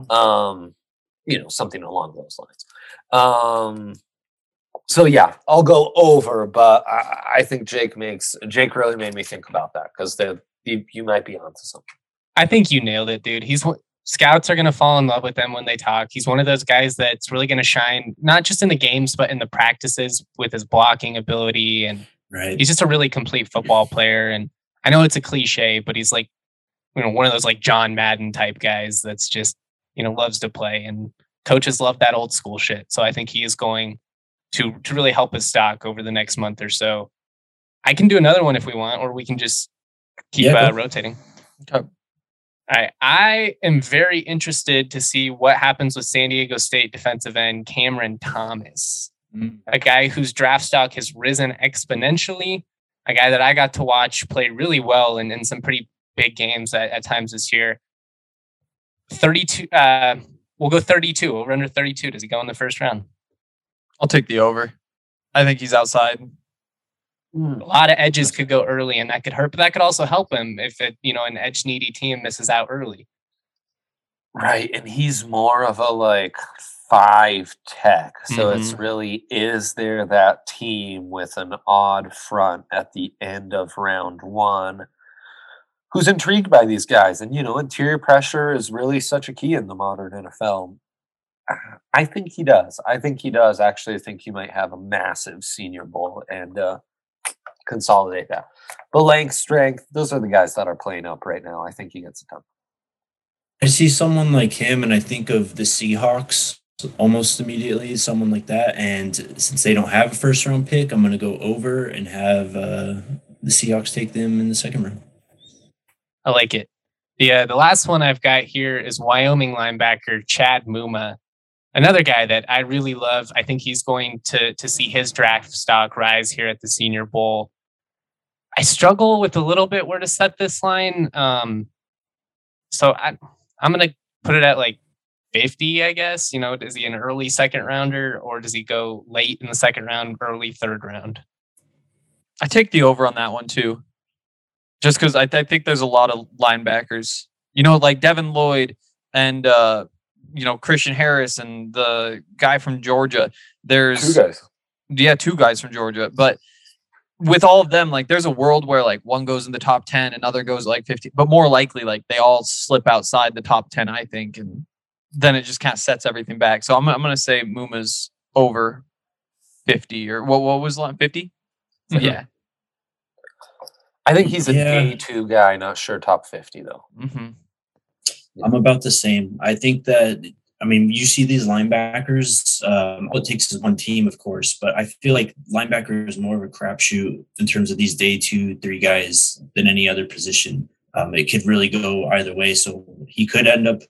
B: Something along those lines. So yeah, I'll go over, but I think Jake really made me think about that because you might be onto something.
A: I think you nailed it, dude. Scouts are going to fall in love with him when they talk. He's one of those guys that's really going to shine, not just in the games, but in the practices with his blocking ability. And he's just a really complete football player. And I know it's a cliche, but he's like, one of those like John Madden type guys that's just, loves to play. And coaches love that old school shit. So I think he is going to really help his stock over the next month or so. I can do another one if we want, or we can just keep rotating. Okay. All right. I am very interested to see what happens with San Diego State defensive end Cameron Thomas, a guy whose draft stock has risen exponentially, a guy that I got to watch play really well in some pretty big games at times this year. 32. We'll go 32. Over under 32. Does he go in the first round?
D: I'll take the over. I think he's outside.
A: A lot of edges could go early, and that could hurt, but that could also help him if an edge needy team misses out early.
B: Right, and he's more of a 5 tech, so it's really, is there that team with an odd front at the end of round 1 who's intrigued by these guys? And interior pressure is really such a key in the modern NFL. I think he does. Actually, I think he might have a massive Senior Bowl and consolidate that. But length, strength, those are the guys that are playing up right now. I think he gets it done.
C: I see someone like him, and I think of the Seahawks almost immediately, someone like that. And since they don't have a first round pick, I'm going to go over and have the Seahawks take them in the second round.
A: I like it. The last one I've got here is Wyoming linebacker Chad Muma. Another guy that I really love. I think he's going to see his draft stock rise here at the Senior Bowl. I struggle with a little bit where to set this line. So I'm going to put it at 50, I guess. Is he an early second rounder, or does he go late in the second round, early third round?
D: I take the over on that one too. Just because I think there's a lot of linebackers, like Devin Lloyd and, Christian Harris and the guy from Georgia. There's
B: 2 guys.
D: Yeah, 2 guys from Georgia. But with all of them, there's a world where one goes in the top 10, another goes 50, but more likely they all slip outside the top 10, I think, and then it just kind of sets everything back. So I'm going to say Muma's over 50, or what was 50?
A: Yeah.
B: I think he's a day 2 guy, not sure top 50 though.
C: I'm about the same. I think that, you see these linebackers, all it takes is one team, of course, but I feel like linebacker is more of a crapshoot in terms of these day 2, 3 guys than any other position. It could really go either way. So he could end up,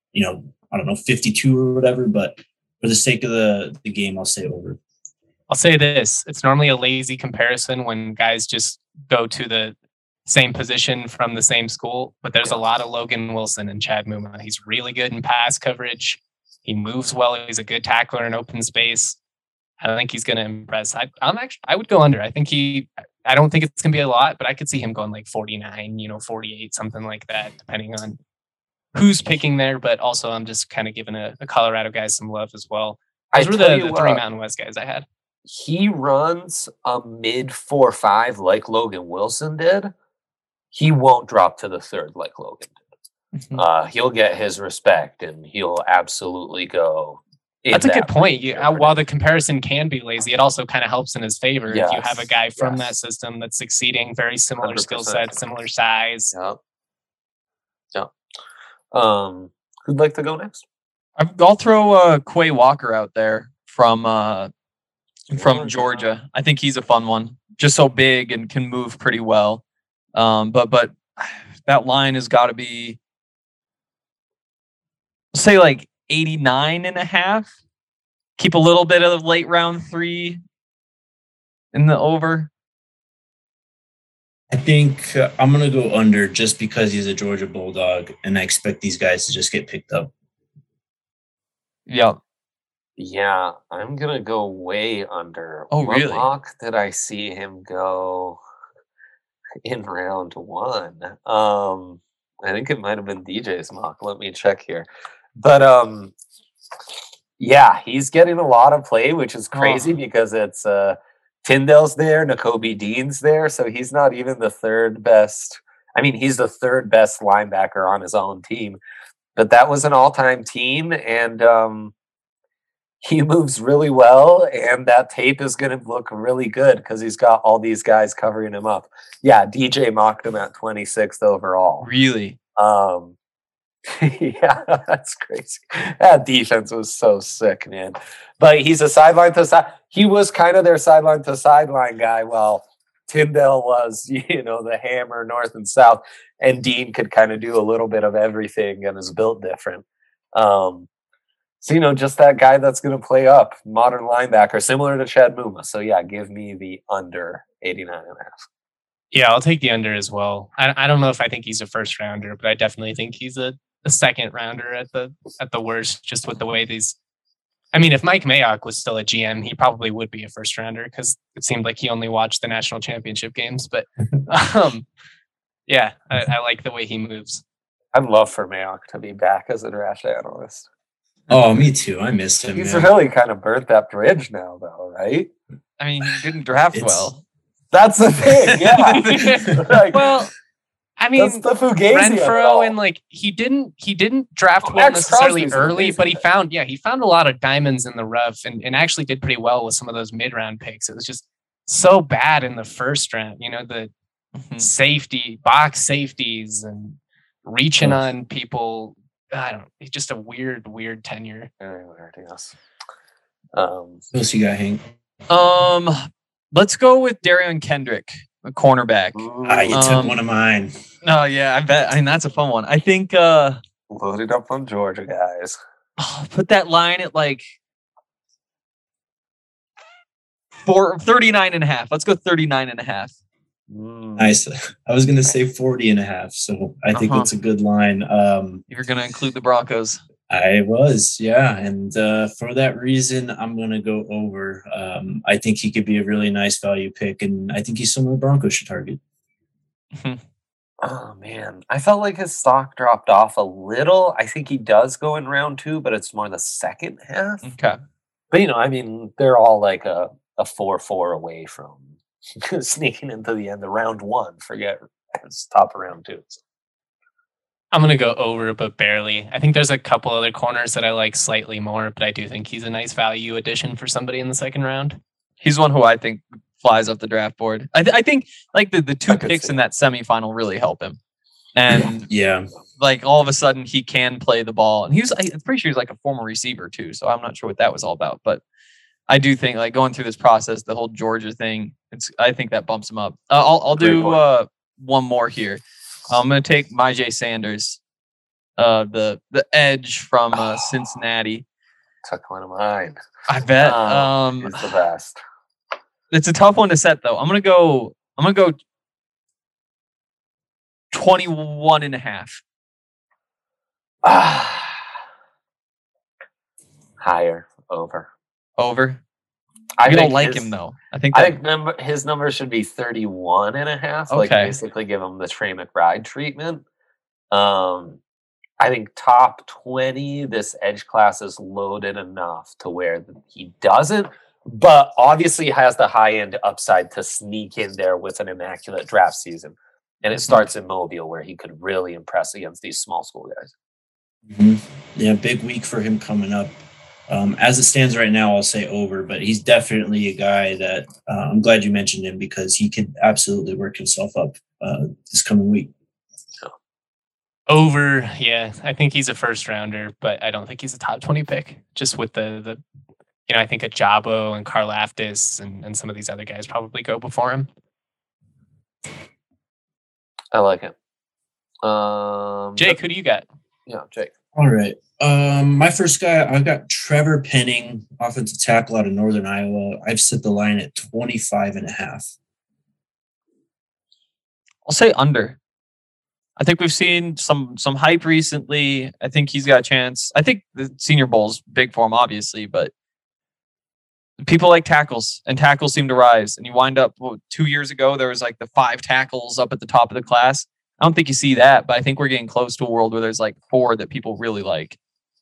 C: 52 or whatever, but for the sake of the game, I'll say over.
A: I'll say this. It's normally a lazy comparison when guys just go to the same position from the same school, but there's a lot of Logan Wilson and Chad Muma. He's really good in pass coverage. He moves well. He's a good tackler in open space. I think he's going to impress. I would go under. I don't think it's going to be a lot, but I could see him going 49, 48, something like that, depending on who's picking there. But also I'm just kind of giving a Colorado guys some love as well. Those were the 3 Mountain West guys I had.
B: He runs a mid 4.5 like Logan Wilson did. He won't drop to the 3rd like Logan did. He'll get his respect, and he'll absolutely go.
A: That's a good point. While the comparison can be lazy, it also kind of helps in his favor if you have a guy from that system that's succeeding, very similar 100%. Skill set, similar size.
B: Yeah. Who'd like to go next?
D: I'll throw Quay Walker out there from Georgia. I think he's a fun one. Just so big and can move pretty well. But that line has got to be, say, like 89.5. Keep a little bit of late round 3 in the over.
C: I think I'm going to go under just because he's a Georgia Bulldog, and I expect these guys to just get picked up.
D: Yep.
B: Yeah, I'm going to go way under.
D: Oh,
B: what
D: really?
B: mock did I see him go in round 1? I think it might have been DJ's mock. Let me check here. But yeah, he's getting a lot of play, which is crazy because it's Tyndale's there, Nakobe Dean's there, so he's not even the third best. I mean, he's the third best linebacker on his own team, but that was an all-time team, and he moves really well, and that tape is going to look really good because he's got all these guys covering him up. Yeah, DJ mocked him at 26th overall.
D: Really?
B: Yeah, that's crazy. That defense was so sick, man. But he's a sideline to side. He was kind of their sideline to sideline guy, while Tyndale was, the hammer north and south, and Dean could kind of do a little bit of everything and is built different. So, just that guy that's going to play up, modern linebacker, similar to Chad Muma. So, yeah, give me the under 89.5.
A: Yeah, I'll take the under as well. I don't know if I think he's a first rounder, but I definitely think he's a second rounder at the worst, just with the way these. I mean, if Mike Mayock was still a GM, he probably would be a first rounder because it seemed like he only watched the national championship games. But yeah, I like the way he moves.
B: I'd love for Mayock to be back as a draft analyst.
C: Oh, me too. I missed him.
B: He's really kind of burnt that bridge now, though, right?
D: I mean, he didn't draft well.
B: That's the thing, yeah.
A: Well, I mean,
B: that's the Fugazi
A: Renfro, and he didn't draft well necessarily early, but he found a lot of diamonds in the rough, and actually did pretty well with some of those mid-round picks. It was just so bad in the first round, the safety box safeties and reaching on people. It's just a weird tenure.
B: Very weird, yes.
C: What else you got, Hank?
D: Let's go with Darian Kendrick, a cornerback.
C: You took one of mine.
D: Oh, yeah, I bet. I mean, that's a fun one. I think...
B: loaded up on Georgia, guys.
D: Put that line at 39.5. Let's go 39.5.
C: Nice. I was going to say 40.5, so I think that's a good line.
D: You're going to include the Broncos.
C: I was, yeah. And for that reason, I'm going to go over. I think he could be a really nice value pick, and I think he's someone the Broncos should target.
B: Oh, man. I felt like his stock dropped off a little. I think he does go in round 2, but it's more the second half.
D: Okay.
B: But, they're all like a 4-4 away from sneaking into the end of round 1. Forget it's top of round 2. So.
A: I'm going to go over, but barely. I think there's a couple other corners that I like slightly more, but I do think he's a nice value addition for somebody in the second round.
D: He's one who I think flies up the draft board. I think the 2 picks in that semifinal really help him. And
C: yeah,
D: all of a sudden he can play the ball. And I'm pretty sure he's a former receiver too. So I'm not sure what that was all about, but I do think going through this process, the whole Georgia thing, I think that bumps him up. I'll do one more here. I'm going to take Myjai Sanders, the edge from Cincinnati.
B: Took one of mine.
D: I bet.
B: He's the best.
D: It's a tough one to set, though. I'm going to go 21.5.
B: Higher. Over.
D: I don't like him, though. I think
B: his number should be 31.5.
D: Okay.
B: Basically give him the Trey McBride treatment. I think top 20, this edge class is loaded enough to where he doesn't, but obviously has the high-end upside to sneak in there with an immaculate draft season. And it starts in Mobile, where he could really impress against these small school guys.
C: Mm-hmm. Yeah, big week for him coming up. As it stands right now, I'll say over, but he's definitely a guy that I'm glad you mentioned him because he could absolutely work himself up this coming week.
A: Over, yeah. I think he's a first rounder, but I don't think he's a top 20 pick. Just with the I think Ajabo and Karlaftis and some of these other guys probably go before him.
B: I like it.
A: Jake, who do you got?
B: Yeah, Jake.
C: All right. My first guy, I've got Trevor Penning, offensive tackle out of Northern Iowa. I've set the line at 25.5.
D: I'll say under. I think we've seen some hype recently. I think he's got a chance. I think the Senior Bowl's big for him, obviously, but people like tackles, and tackles seem to rise. And you wind up 2 years ago, there was like the 5 tackles up at the top of the class. I don't think you see that, but I think we're getting close to a world where there's like 4 that people really like.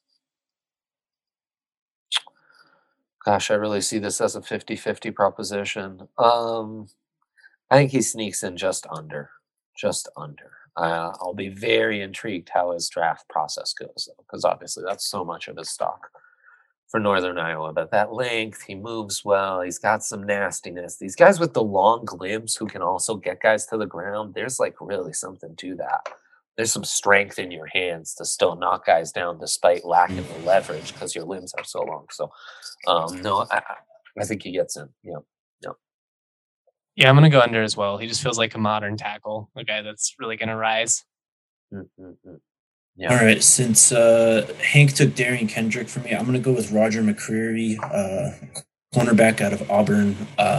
B: Gosh, I really see this as a 50-50 proposition. I think he sneaks in just under. Just under. I'll be very intrigued how his draft process goes, though, because obviously that's so much of his stock for Northern Iowa. But that length, he moves well. He's got some nastiness. These guys with the long limbs who can also get guys to the ground, there's like really something to that. There's some strength in your hands to still knock guys down despite lacking the leverage because your limbs are so long. So, no, I think he gets in. Yeah.
A: Yeah, I'm going to go under as well. He just feels like a modern tackle, a guy that's really going to rise.
B: Mm-hmm.
C: Yeah. All right. Since Hank took Darian Kendrick for me, I'm going to go with Roger McCreary, cornerback out of Auburn.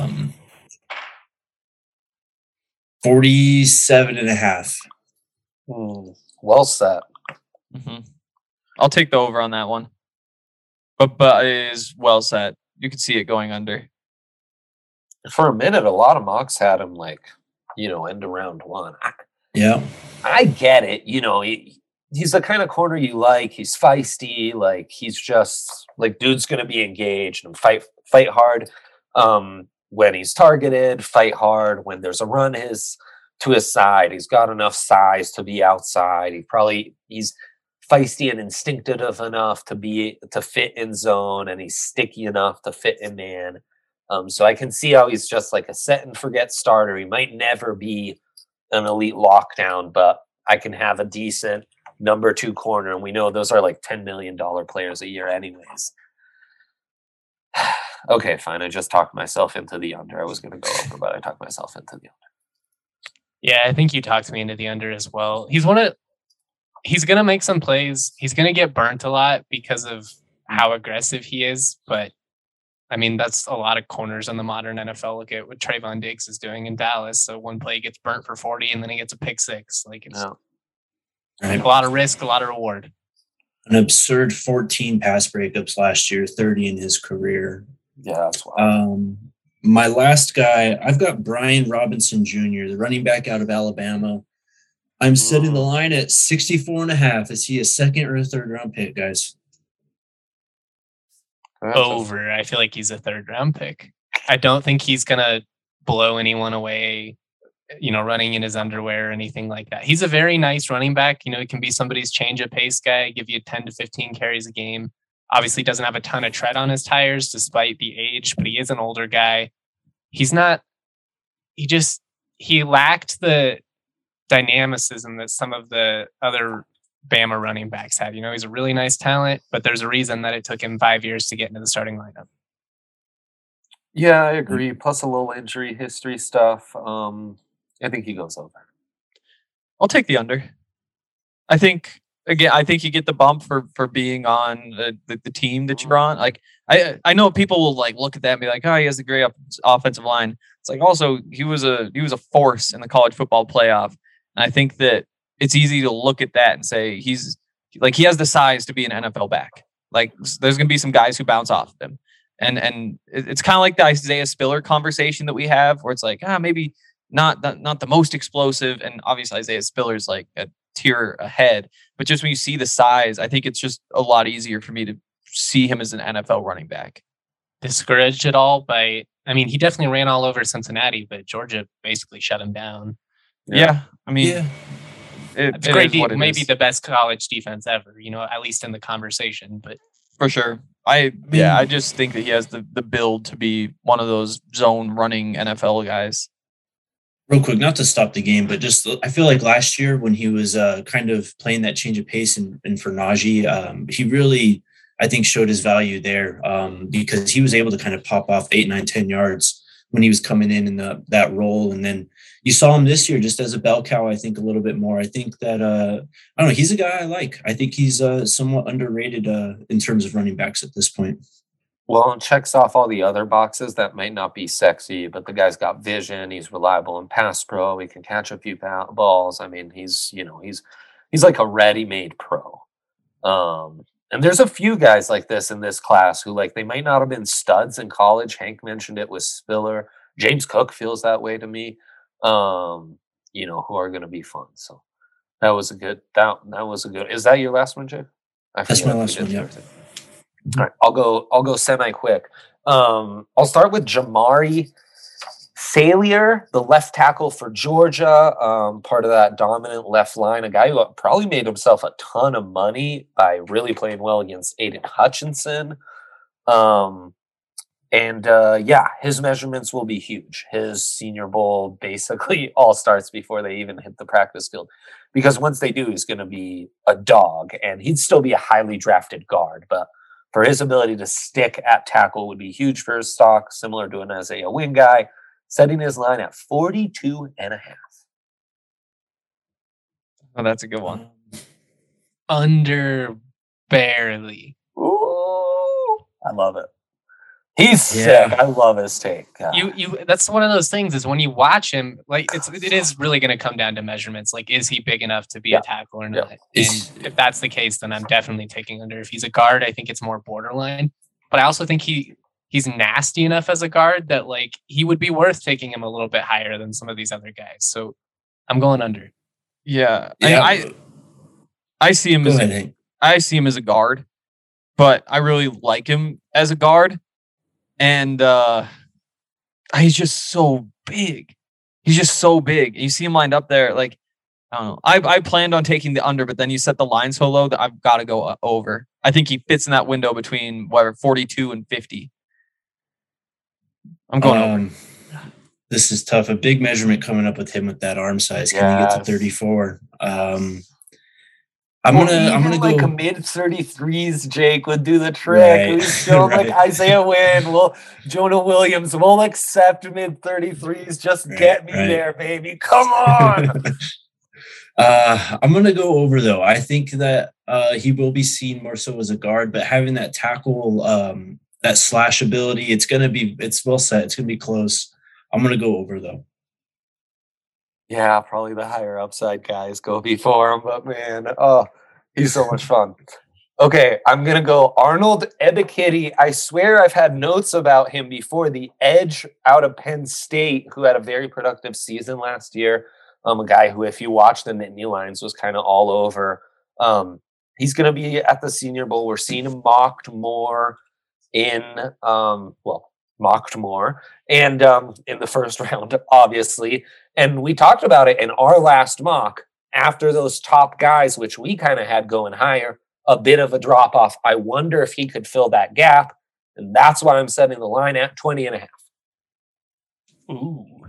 C: 47.5.
B: Well set.
D: Mm-hmm. I'll take the over on that one. But it is well set. You can see it going under.
B: For a minute, a lot of mocks had him end of round 1.
C: Yeah.
B: I get it. He's the kind of corner you like. He's feisty. Like, he's just like, dude's going to be engaged and fight hard when he's targeted, fight hard when there's a run to his side. He's got enough size to be outside. He's feisty and instinctive enough to fit in zone, and he's sticky enough to fit in man. So I can see how he's just like a set and forget starter. He might never be an elite lockdown, but I can have a decent number 2 corner. And we know those are like $10 million players a year anyways. Okay, fine. I just talked myself into the under. I was going to go over, but I talked myself into the under.
A: Yeah, I think you talked me into the under as well. He's going to make some plays. He's going to get burnt a lot because of how aggressive he is, but I mean, that's a lot of corners in the modern NFL. Look at what Trayvon Diggs is doing in Dallas. So one play gets burnt for 40 and then he gets a pick 6. Like, it's a lot of risk, a lot of reward.
C: An absurd 14 pass breakups last year, 30 in his career.
B: Yeah, that's wild.
C: My last guy, I've got Brian Robinson Jr., the running back out of Alabama. I'm setting the line at 64.5. Is he a second or a third round pick, guys?
A: Over. I feel like he's a third round pick. I don't think he's going to blow anyone away, running in his underwear or anything like that. He's a very nice running back. He can be somebody's change of pace guy, give you 10 to 15 carries a game. Obviously doesn't have a ton of tread on his tires despite the age, but he is an older guy. He lacked the dynamicism that some of the other Bama running backs had. He's a really nice talent, but there's a reason that it took him 5 years to get into the starting lineup.
B: Yeah, I agree. Plus a little injury history stuff. I think he goes over.
D: I'll take the under. I think you get the bump for being on the team that you're on. Like, I know people will like look at that and be like, oh, he has a great offensive line. It's like, also he was a force in the college football playoff. And I think that it's easy to look at that and say he has the size to be an NFL back. Like, there's going to be some guys who bounce off of him. And it's kind of like the Isaiah Spiller conversation that we have, where it's like, maybe not the most explosive. And obviously Isaiah Spiller's like a tier ahead. But just when you see the size, I think it's just a lot easier for me to see him as an NFL running back.
A: Discouraged at all by, he definitely ran all over Cincinnati, but Georgia basically shut him down.
D: Yeah.
A: It's great. Maybe the best college defense ever, at least in the conversation, but
D: for sure. I just think that he has the build to be one of those zone running NFL guys.
C: Real quick, not to stop the game, but just I feel like last year when he was kind of playing that change of pace and for Najee, he really, I think, showed his value there because he was able to kind of pop off 8, 9, 10 yards when he was coming in that role. And then you saw him this year just as a bell cow, I think, a little bit more. I think that, I don't know, he's a guy I like. I think he's somewhat underrated in terms of running backs at this point.
B: Well, it checks off all the other boxes that might not be sexy, but the guy's got vision. He's reliable in pass pro. He can catch a few balls. I mean, he's like a ready-made pro. And there's a few guys like this in this class who, like, they might not have been studs in college. Hank mentioned it with Spiller. James Cook feels that way to me. Who are going to be fun. So that was a good. That was a good. Is that your last one, Jay?
C: That's my last one. Yeah.
B: All right, I'll go semi quick. I'll start with Jamari Salier, the left tackle for Georgia, part of that dominant left line, a guy who probably made himself a ton of money by really playing well against Aiden Hutchinson. His measurements will be huge. His Senior Bowl basically all starts before they even hit the practice field, because once they do, he's going to be a dog, and he'd still be a highly drafted guard, but for his ability to stick at tackle would be huge for his stock, similar to an Isaiah Wynn guy, setting his line at 42.5.
D: Oh, that's a good one.
A: Under barely.
B: Ooh, I love it. He's sick. I love his take. God.
A: That's one of those things is when you watch him, like it is really going to come down to measurements. Like, is he big enough to be a tackle or not? And if that's the case, then I'm definitely taking under. If he's a guard, I think it's more borderline. But I also think he's nasty enough as a guard that, like, he would be worth taking him a little bit higher than some of these other guys. So I'm going under.
D: Yeah. I see him as a guard, but I really like him as a guard. And he's just so big. He's just so big. You see him lined up there. Like, I don't know. I planned on taking the under, but then you set the line so low that I've got to go over. I think he fits in that window between 42 and 50. I'm going over.
C: This is tough. A big measurement coming up with him with that arm size. Can he get to 34? I'm gonna
B: like
C: go
B: a mid 33s. Jake would do the trick. Right. He's still like Isaiah Wynn. Jonah Williams. We'll accept mid 33s. Just get me there, baby. Come on.
C: I'm gonna go over though. I think that he will be seen more so as a guard, but having that tackle, that slash ability, it's well set. It's gonna be close. I'm gonna go over though.
B: Yeah, probably the higher upside guys go before him, but man, he's so much fun. Okay, I'm going to go Arnold Ebiketie. I swear I've had notes about him before. The edge out of Penn State, who had a very productive season last year. A guy who, if you watch the Nittany Lions, was kind of all over. He's going to be at the Senior Bowl. We're seeing him mocked more in the first round, obviously. And we talked about it in our last mock after those top guys, which we kind of had going higher, a bit of a drop off. I wonder if he could fill that gap. And that's why I'm setting the line at 20.5.
A: Ooh.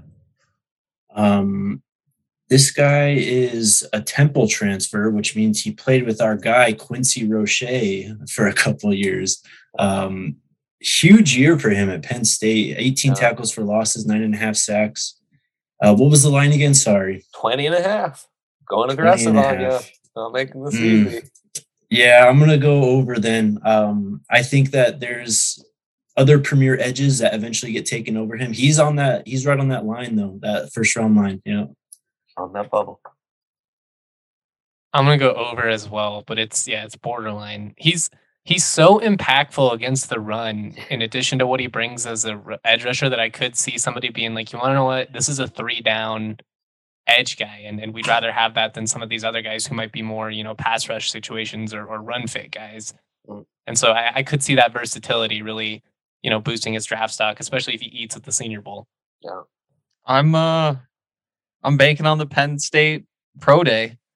C: This guy is a Temple transfer, which means he played with our guy, Quincy Roche, for a couple of years. Huge year for him at Penn State. 18 tackles for losses, 9.5 sacks. What was the line again? Sorry.
B: 20.5. Going aggressive on you. Not making this easy.
C: Yeah, I'm going to go over then. I think that there's other premier edges that eventually get taken over him. He's right on that line, though, that first round line.
B: On that bubble.
A: I'm going to go over as well, but it's borderline. He's so impactful against the run, in addition to what he brings as a edge rusher, that I could see somebody being like, you want to know what? This is a 3-down edge guy, and we'd rather have that than some of these other guys who might be more, pass rush situations or run fit guys. And so I could see that versatility really, boosting his draft stock, especially if he eats at the Senior Bowl.
B: Yeah.
D: I'm banking on the Penn State Pro Day.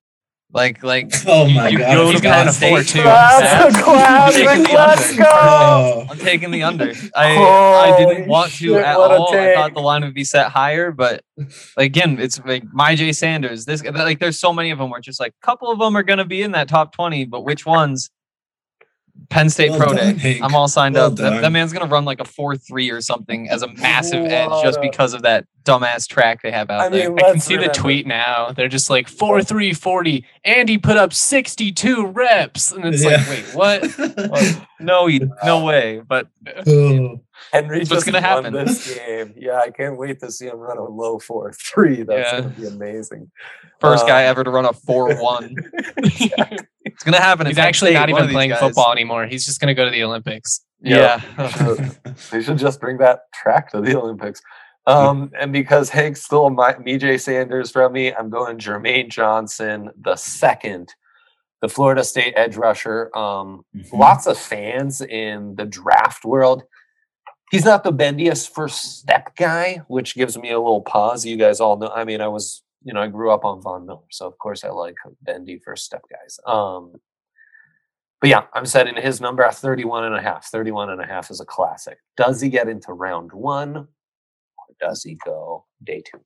D: Like
C: Oh my
D: you
C: God,
D: go
C: I
D: to
C: forgot.
D: Penn
A: a
D: State.
A: 4-2.
B: Classic,
D: I'm taking the
B: let's
D: under.
B: go.
C: Oh,
D: I'm taking the under. I didn't
B: Holy
D: want to
B: shit,
D: at
B: what a
D: all. I
B: take.
D: thought the line would be set higher, but again, it's like Myjai Sanders. This like there's so many of them where it's just like a couple of them are gonna be in that top 20, but which ones? Penn State
C: Well
D: Pro
C: done,
D: Day.
C: Hank.
D: I'm all signed
C: Well
D: up. That
C: done.
D: man's gonna run like a 4.3 or something as a massive edge
B: What
D: just
B: a-
D: because of that dumbass track they have out
B: I
D: there.
B: mean,
A: I can
B: let's
A: see the
B: remember,
A: tweet now. They're just like 4-3-40. Andy put up 62 reps. And it's like, wait, what?
D: No way. But
C: Oh.
B: Henry
D: That's what's
B: just
D: gonna
B: won
D: happen.
B: this game. Yeah, I can't wait to see him run a low 4.3. That's
D: Yeah.
B: gonna be amazing.
D: first guy ever to run a 4.1. It's gonna happen.
A: He's
D: It's Penn
A: actually
D: State,
A: not
D: one of
A: even
D: these
A: playing
D: guys.
A: football anymore. He's just going to go to the Olympics.
D: Yeah.
B: They should just bring that track to the Olympics. And because Hank stole Myjai Sanders from me, I'm going Jermaine Johnson the second, the Florida State edge rusher. Lots of fans in the draft world. He's not the bendiest first step guy, which gives me a little pause. You guys all know. I mean, I grew up on Von Miller, so of course I like bendy first step guys. But yeah, I'm setting his number at 31.5. 31.5 is a classic. Does he get into round one, or does he go day two?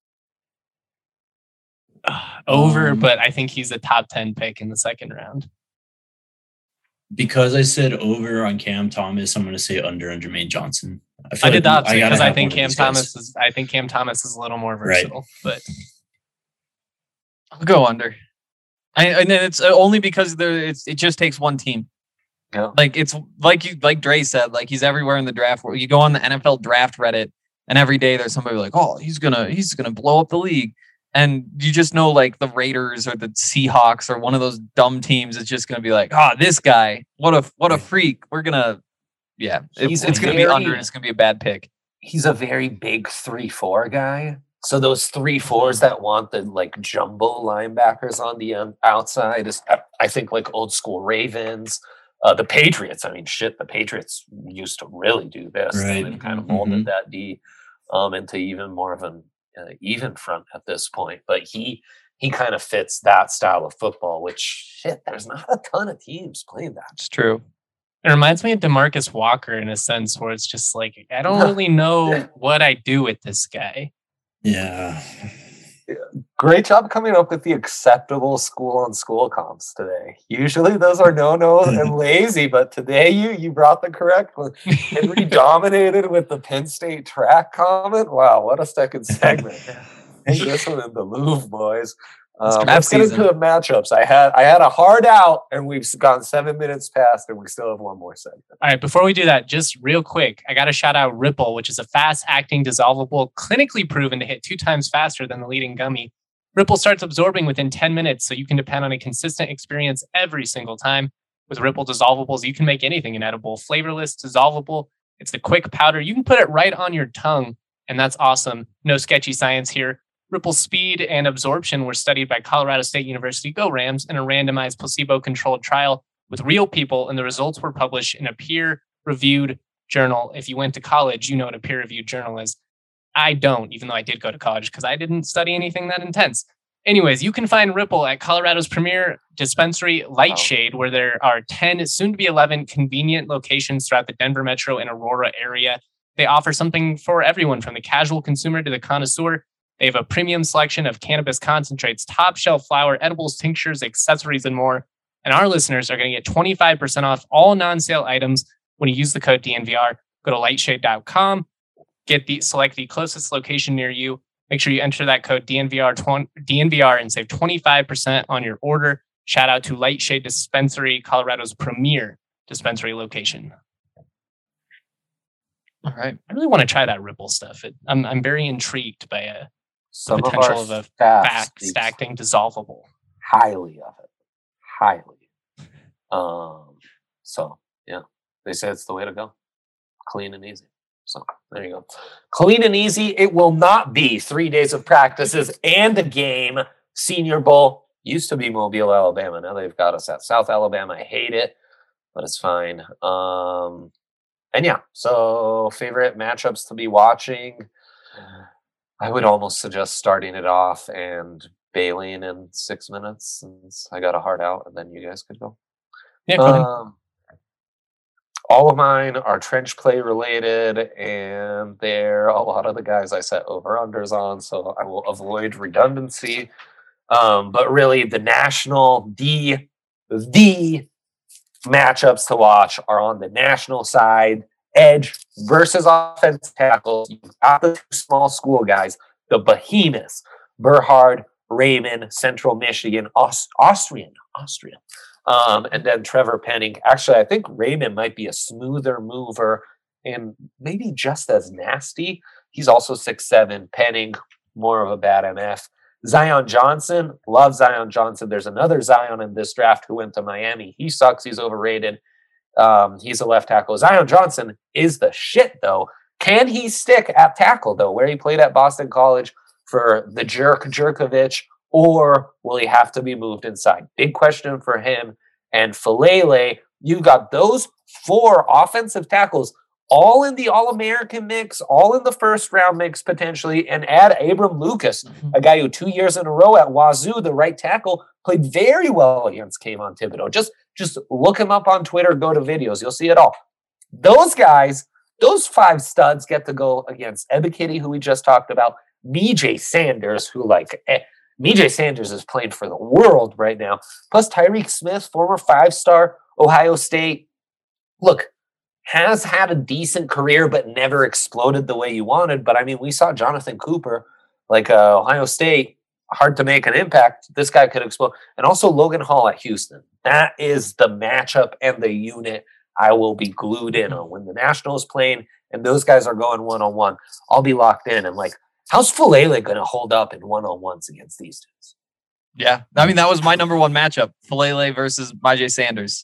A: Over, but I think he's a top 10 pick in the second round.
C: Because I said over on Cam Thomas, I'm going to say under on Jermaine Johnson.
A: I did the opposite
C: gotta
A: because I
C: have
A: think
C: one of
A: Cam
C: these guys.
A: Thomas is. I think Cam Thomas is a little more
C: Right.
A: versatile, but
D: I'll go under. And then it's only because it just takes one team.
B: Yeah.
D: Like it's like Dre said, like he's everywhere in the draft. Where you go on the NFL draft Reddit, and every day there's somebody like, oh, he's gonna blow up the league, and you just know like the Raiders or the Seahawks or one of those dumb teams is just gonna be like, this guy, what a freak. We're gonna,
B: He's
D: it's gonna be under, and it's gonna be a bad pick.
B: He's a very big 3-4 guy. So those 3-4s that want the like jumbo linebackers on the outside is, I think, like old school Ravens. The Patriots, I mean, shit, the Patriots used to really do this.
C: Right.
B: They've kind of molded that D into even more of an even front at this point. But he kind of fits that style of football, which, shit, there's not a ton of teams playing that.
D: It's true.
A: it reminds me of DeMarcus Walker in a sense where it's just like, I don't really know what I do with this guy.
C: Yeah.
B: Great job coming up with the acceptable school-on-school comps today. Usually those are no and lazy, but today you brought the correct one. Henry dominated with the Penn State track comment. Wow, what a second segment. Take this one in the Louvre, boys. Let's get into the matchups. I had a hard out, and we've gone 7 minutes past, and we still have one more segment.
A: All right, before we do that, just real quick, I got to shout out Ripple, which is a fast-acting dissolvable, clinically proven to hit 2 times faster than the leading gummy. Ripple starts absorbing within 10 minutes, so you can depend on a consistent experience every single time. With Ripple dissolvables, you can make anything inedible. Flavorless, dissolvable. It's the quick powder. You can put it right on your tongue, and that's awesome. No sketchy science here. Ripple's speed and absorption were studied by Colorado State University Go Rams in a randomized placebo-controlled trial with real people, and the results were published in a peer-reviewed journal. If you went to college, you know what a peer-reviewed journal is. I don't, even though I did go to college because I didn't study anything that intense. Anyways, you can find Ripple at Colorado's premier dispensary, Lightshade, where there are 10, soon to be 11, convenient locations throughout the Denver metro and Aurora area. They offer something for everyone, from the casual consumer to the connoisseur. They have a premium selection of cannabis concentrates, top shelf flower, edibles, tinctures, accessories, and more. And our listeners are going to get 25% off all non-sale items when you use the code DNVR. Go to lightshade.com, select the closest location near you. Make sure you enter that code DNVR and save 25% on your order. Shout out to Lightshade Dispensary, Colorado's premier dispensary location.
D: All right.
A: I really want to try that Ripple stuff. I'm very intrigued by the
B: Some
A: potential of a fast-acting dissolvable.
B: Highly of it. Highly. So, yeah. They say it's the way to go. Clean and easy. So, there you go. Clean and easy. It will not be 3 days of practices and a game. Senior Bowl used to be Mobile, Alabama. Now they've got us at South Alabama. I hate it, but it's fine. And yeah, so favorite matchups to be watching. I would almost suggest starting it off and Baleen in 6 minutes since I got a hard out, and then you guys could go.
A: Yeah, go ahead.
B: All of mine are trench play related, and they're a lot of the guys I set over-unders on, so I will avoid redundancy. But really, the matchups to watch are on the national side. Edge versus offensive tackles. You've got the two small school guys, the behemoths, Berhard, Raymond, Central Michigan, Austrian. And then Trevor Penning. Actually, I think Raymond might be a smoother mover and maybe just as nasty. He's also 6'7". Penning, more of a bad MF. Zion Johnson, love Zion Johnson. There's another Zion in this draft who went to Miami. He sucks. He's overrated. He's a left tackle. Zion Johnson is the shit, though. Can he stick at tackle, though, where he played at Boston College for the jerk Jerkovich, or will he have to be moved inside? Big question for him. And Falele, you got those 4 offensive tackles all in the All-American mix, all in the first-round mix potentially, and add Abram Lucas, a guy who 2 years in a row at Wazoo, the right tackle, played very well against Kayvon Thibodeau. Just look him up on Twitter, go to videos. You'll see it all. Those guys, those 5 studs get to go against Ebiketie, who we just talked about, BJ Sanders, who BJ Sanders is playing for the world right now, plus Tyreek Smith, former 5-star Ohio State. Look, has had a decent career, but never exploded the way you wanted. But I mean, we saw Jonathan Cooper, Ohio State, hard to make an impact. This guy could explode. And also Logan Hall at Houston. That is the matchup and the unit I will be glued in on. When the Nationals playing and those guys are going one-on-one, I'll be locked in. And how's Falele going to hold up in one-on-ones against these dudes?
D: Yeah. I mean, that was my number 1 matchup, Falele versus BJ Sanders.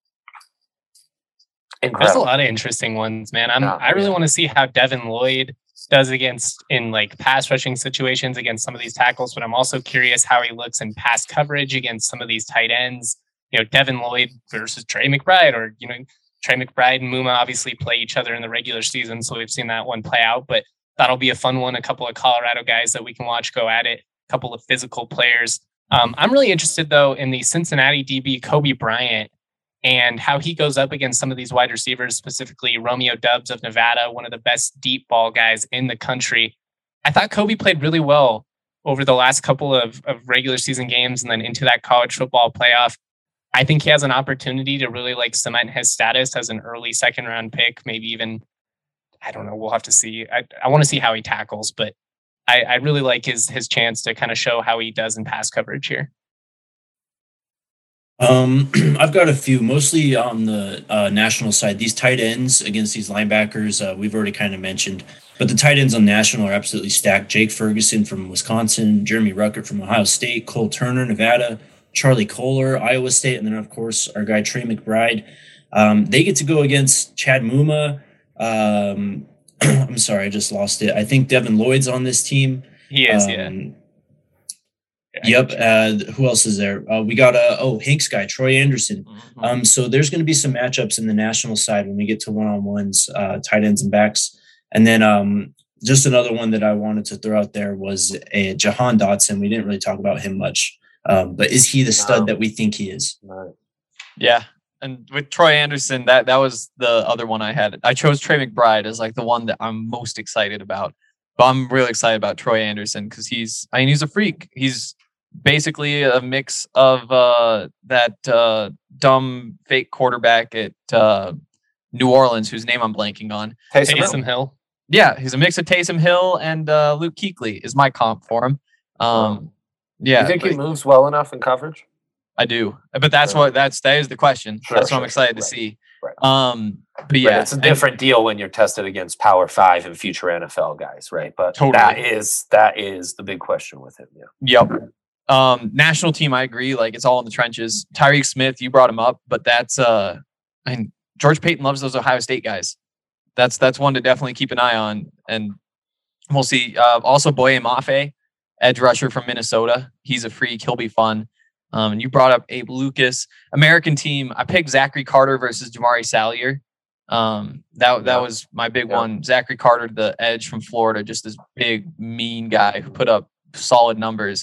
B: Incredible.
A: There's a lot of interesting ones, man. I really want to see how Devin Lloyd does in pass rushing situations against some of these tackles, but I'm also curious how he looks in pass coverage against some of these tight ends. Devin Lloyd versus Trey McBride, or Trey McBride and Muma obviously play each other in the regular season, so we've seen that one play out, but that'll be a fun one. A couple of Colorado guys that we can watch go at it, a couple of physical players. I'm really interested, though, in the Cincinnati DB, Kobe Bryant, and how he goes up against some of these wide receivers, specifically Romeo Doubs of Nevada, one of the best deep ball guys in the country. I thought Kobe played really well over the last couple of regular season games and then into that college football playoff. I think he has an opportunity to really cement his status as an early 2nd round pick, maybe even, I don't know, we'll have to see. I want to see how he tackles, but I really like his chance to kind of show how he does in pass coverage here.
C: I've got a few, mostly on the national side. These tight ends against these linebackers, we've already kind of mentioned, but the tight ends on national are absolutely stacked. Jake Ferguson from Wisconsin, Jeremy Ruckert from Ohio State, Cole Turner, Nevada, Charlie Kohler, Iowa State, and then, of course, our guy Trey McBride. They get to go against Chad Muma. I'm sorry, I just lost it. I think Devin Lloyd's on this team.
A: He is, yeah.
C: Yep. Who else is there? We got Hank's guy, Troy Anderson.
D: Mm-hmm.
C: So there's going to be some matchups in the national side when we get to one-on-ones, tight ends and backs. And then just another one that I wanted to throw out there was Jahan Dotson. We didn't really talk about him much, but is he the stud that we think he is?
B: No.
D: Yeah. And with Troy Anderson, that was the other one I had. I chose Trey McBride as the one that I'm most excited about. But I'm really excited about Troy Anderson because he's a freak. He's basically a mix of that dumb fake quarterback at New Orleans, whose name I'm blanking on.
A: Taysom Hill.
D: Yeah, he's a mix of Taysom Hill and Luke Kuechly is my comp for him. Yeah,
B: you think he moves well enough in coverage?
D: I do, but that is the question. That's what I'm excited to see.
B: Right.
D: But yeah,
B: it's a different deal when you're tested against Power 5 and future NFL guys, right? But
D: totally.
B: that is the big question with him.
D: Yeah. Yep. National team, I agree. It's all in the trenches. Tyreek Smith, you brought him up, but that's George Payton loves those Ohio State guys. That's one to definitely keep an eye on, and we'll see. Also, Boye Mafe, edge rusher from Minnesota. He's a freak. He'll be fun. And you brought up Abe Lucas. American team, I picked Zachary Carter versus Jamari Salyer. That was my big one. Zachary Carter, the edge from Florida, just this big, mean guy who put up solid numbers.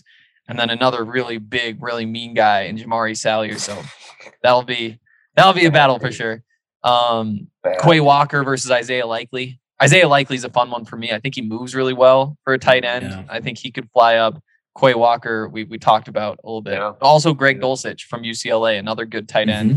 D: and then another really big, really mean guy in Jamari Salyer. So that'll be a battle for sure. Quay Walker versus Isaiah Likely. Isaiah Likely is a fun one for me. I think he moves really well for a tight end.
C: Yeah.
D: I think he could fly up. Quay Walker, we talked about a little bit.
B: Yeah.
D: Also, Greg Dulcich from UCLA, another good tight end.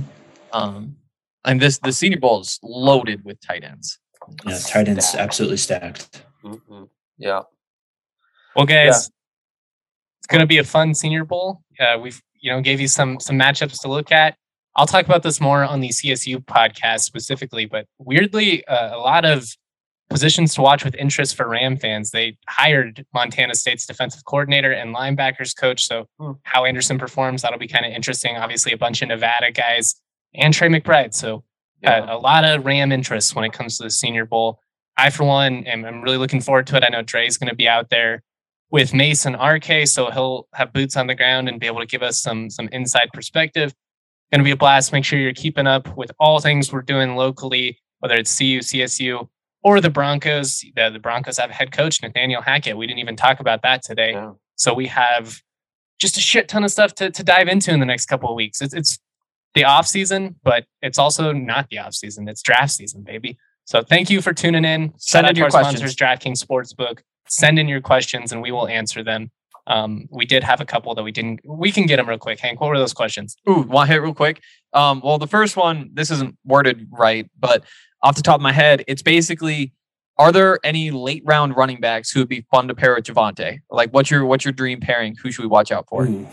D: And the Senior Bowl is loaded with tight ends.
C: Yeah, tight ends absolutely stacked.
B: Yeah.
A: Well, guys, it's going to be a fun Senior Bowl. We've gave you some matchups to look at. I'll talk about this more on the CSU podcast specifically, but weirdly, a lot of positions to watch with interest for Ram fans. They hired Montana State's defensive coordinator and linebackers coach. So how Anderson performs, that'll be kind of interesting. Obviously, a bunch of Nevada guys and Trey McBride. So a lot of Ram interest when it comes to the Senior Bowl. I, for one, am really looking forward to it. I know Dre's going to be out there with Mace and RK, so he'll have boots on the ground and be able to give us some inside perspective. Going to be a blast. Make sure you're keeping up with all things we're doing locally, whether it's CU, CSU, or the Broncos. The Broncos have head coach Nathaniel Hackett. We didn't even talk about that today. Yeah. So we have just a shit ton of stuff to dive into in the next couple of weeks. It's the off season, but it's also not the off season. It's draft season, baby. So thank you for tuning in.
D: Send in your questions.
A: Sponsors, DraftKings Sportsbook. Send in your questions and we will answer them. We did have a couple that we didn't. We can get them real quick. Hank, what were those questions?
D: Ooh, want to hit real quick? Well, the first one, this isn't worded right, but off the top of my head, it's basically, are there any late round running backs who would be fun to pair with Javonte? Like, what's your dream pairing? Who should we watch out for?
C: Ooh.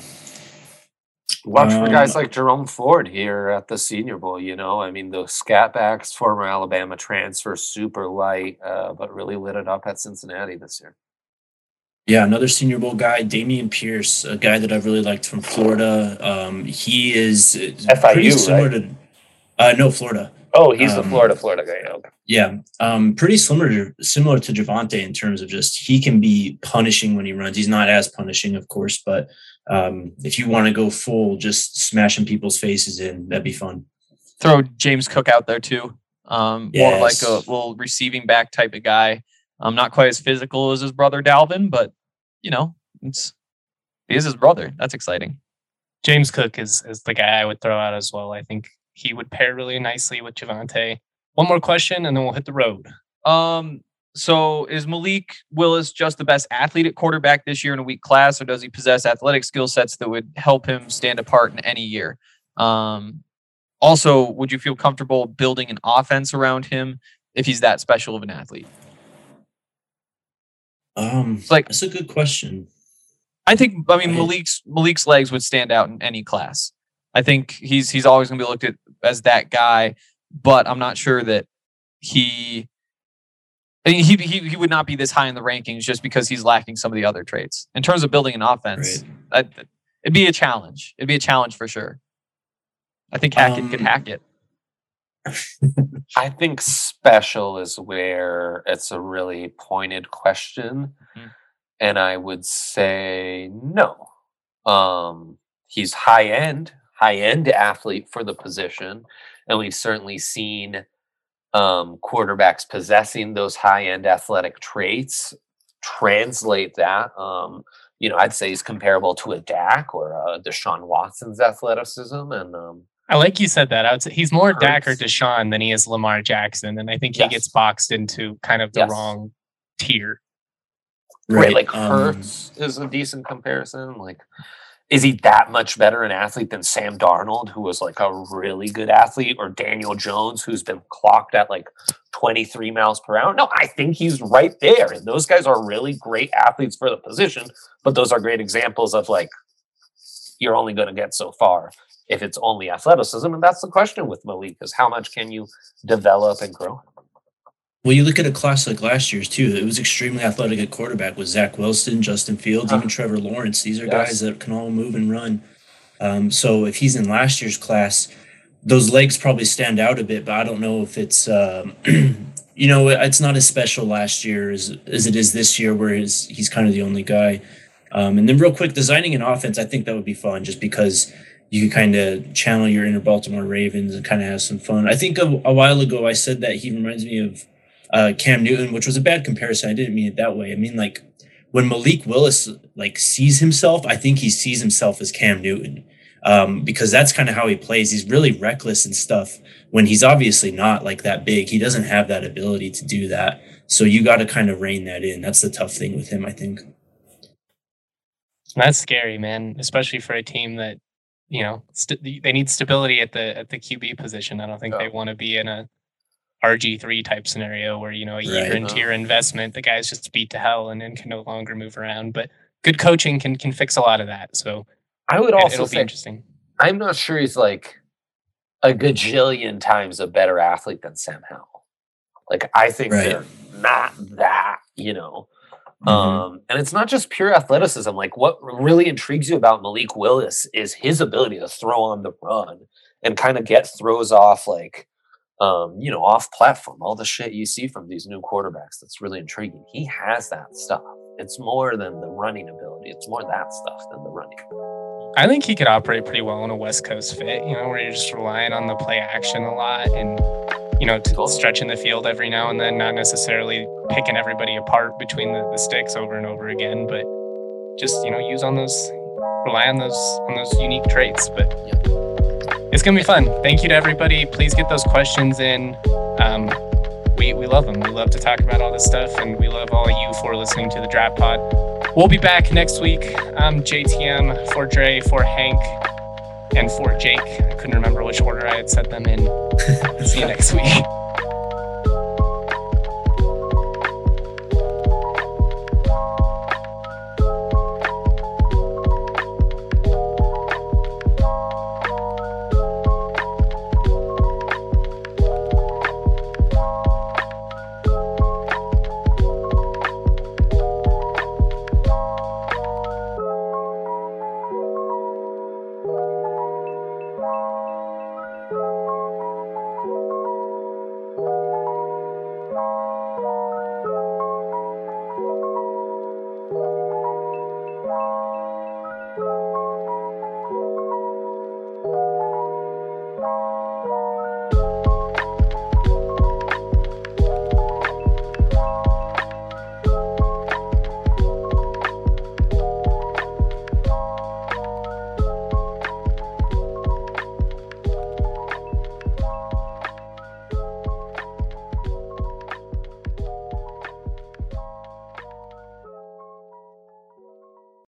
B: Watch for guys like Jerome Ford here at the Senior Bowl. I mean, the scat backs, former Alabama transfer, super light, but really lit it up at Cincinnati this year.
C: Yeah, another Senior Bowl guy, Damian Pierce, a guy that I've really liked from Florida. He is
B: FIU,
C: pretty similar
B: right?
C: to Florida.
B: Oh, he's the Florida guy. Okay.
C: Yeah, pretty similar to Javonte in terms of just he can be punishing when he runs. He's not as punishing, of course, but if you want to go full, just smashing people's faces in, that'd be fun.
D: Throw James Cook out there too. More like a little receiving back type of guy. Not quite as physical as his brother Dalvin, but he is his brother. That's exciting.
A: James Cook is the guy I would throw out as well. I think he would pair really nicely with Javonte. One more question, and then we'll hit the road.
D: So is Malik Willis just the best athlete at quarterback this year in a weak class, or does he possess athletic skill sets that would help him stand apart in any year? Also, would you feel comfortable building an offense around him if he's that special of an athlete?
C: That's a good question.
D: I mean, Malik's legs would stand out in any class. I think he's always going to be looked at as that guy, but I'm not sure that he would not be this high in the rankings just because he's lacking some of the other traits. In terms of building an offense, it'd be a challenge. It'd be a challenge for sure. I think Hackett could hack it.
B: I think special is where it's a really pointed question. Mm-hmm. And I would say no. He's high-end athlete for the position. And we've certainly seen quarterbacks possessing those high-end athletic traits translate that. I'd say he's comparable to a Dak or a Deshaun Watson's athleticism. And
A: I like you said that. I would say he's more Dak or Deshaun than he is Lamar Jackson. And I think he gets boxed into kind of the wrong tier.
B: Right. Like Hurts is a decent comparison. Like, is he that much better an athlete than Sam Darnold, who was like a really good athlete, or Daniel Jones, who's been clocked at like 23 miles per hour? No, I think he's right there. And those guys are really great athletes for the position, but those are great examples of like, you're only going to get so far if it's only athleticism. And that's the question with Malik, is how much can you develop and grow?
C: Well, you look at a class like last year's too. It was extremely athletic at quarterback with Zach Wilson, Justin Fields, even Trevor Lawrence. These are guys that can all move and run. So if he's in last year's class, those legs probably stand out a bit, but I don't know if it's, it's not as special last year as it is this year, where he's kind of the only guy. And then real quick, designing an offense, I think that would be fun just because you can kind of channel your inner Baltimore Ravens and kind of have some fun. I think a while ago I said that he reminds me of Cam Newton, which was a bad comparison. I didn't mean it that way. I mean, like, when Malik Willis like sees himself, I think he sees himself as Cam Newton, because that's kind of how he plays. He's really reckless and stuff when he's obviously not like that big. He doesn't have that ability to do that. So you got to kind of rein that in. That's the tough thing with him, I think.
A: That's scary, man, especially for a team that, you know, they need stability at the QB position. I don't think they want to be in a RG3 type scenario where, you know, a year into your investment, the guy's just beat to hell and then can no longer move around. But good coaching can fix a lot of that. So
B: I would also
A: it'll
B: say,
A: be interesting.
B: I'm not sure he's like a gajillion times a better athlete than Sam Howell. Like, I think they're not that, you know. And it's not just pure athleticism. Like, what really intrigues you about Malik Willis is his ability to throw on the run and kind of get throws off, like, you know, off platform. All the shit you see from these new quarterbacks, that's really intriguing. He has that stuff. It's more than the running ability. It's more that stuff than the running.
A: I think he could operate pretty well in a West Coast fit, you know, where you're just relying on the play action a lot and, you know, stretching the field every now and then, not necessarily picking everybody apart between the sticks over and over again, but just, you know, rely on those unique traits. But it's going to be fun. Thank you to everybody. Please get those questions in. We love them. We love to talk about all this stuff, and we love all you for listening to the Draft Pod. We'll be back next week. I'm JTM for Dre, for Hank, and for Jake. I couldn't remember which order I had set them in. See you next week.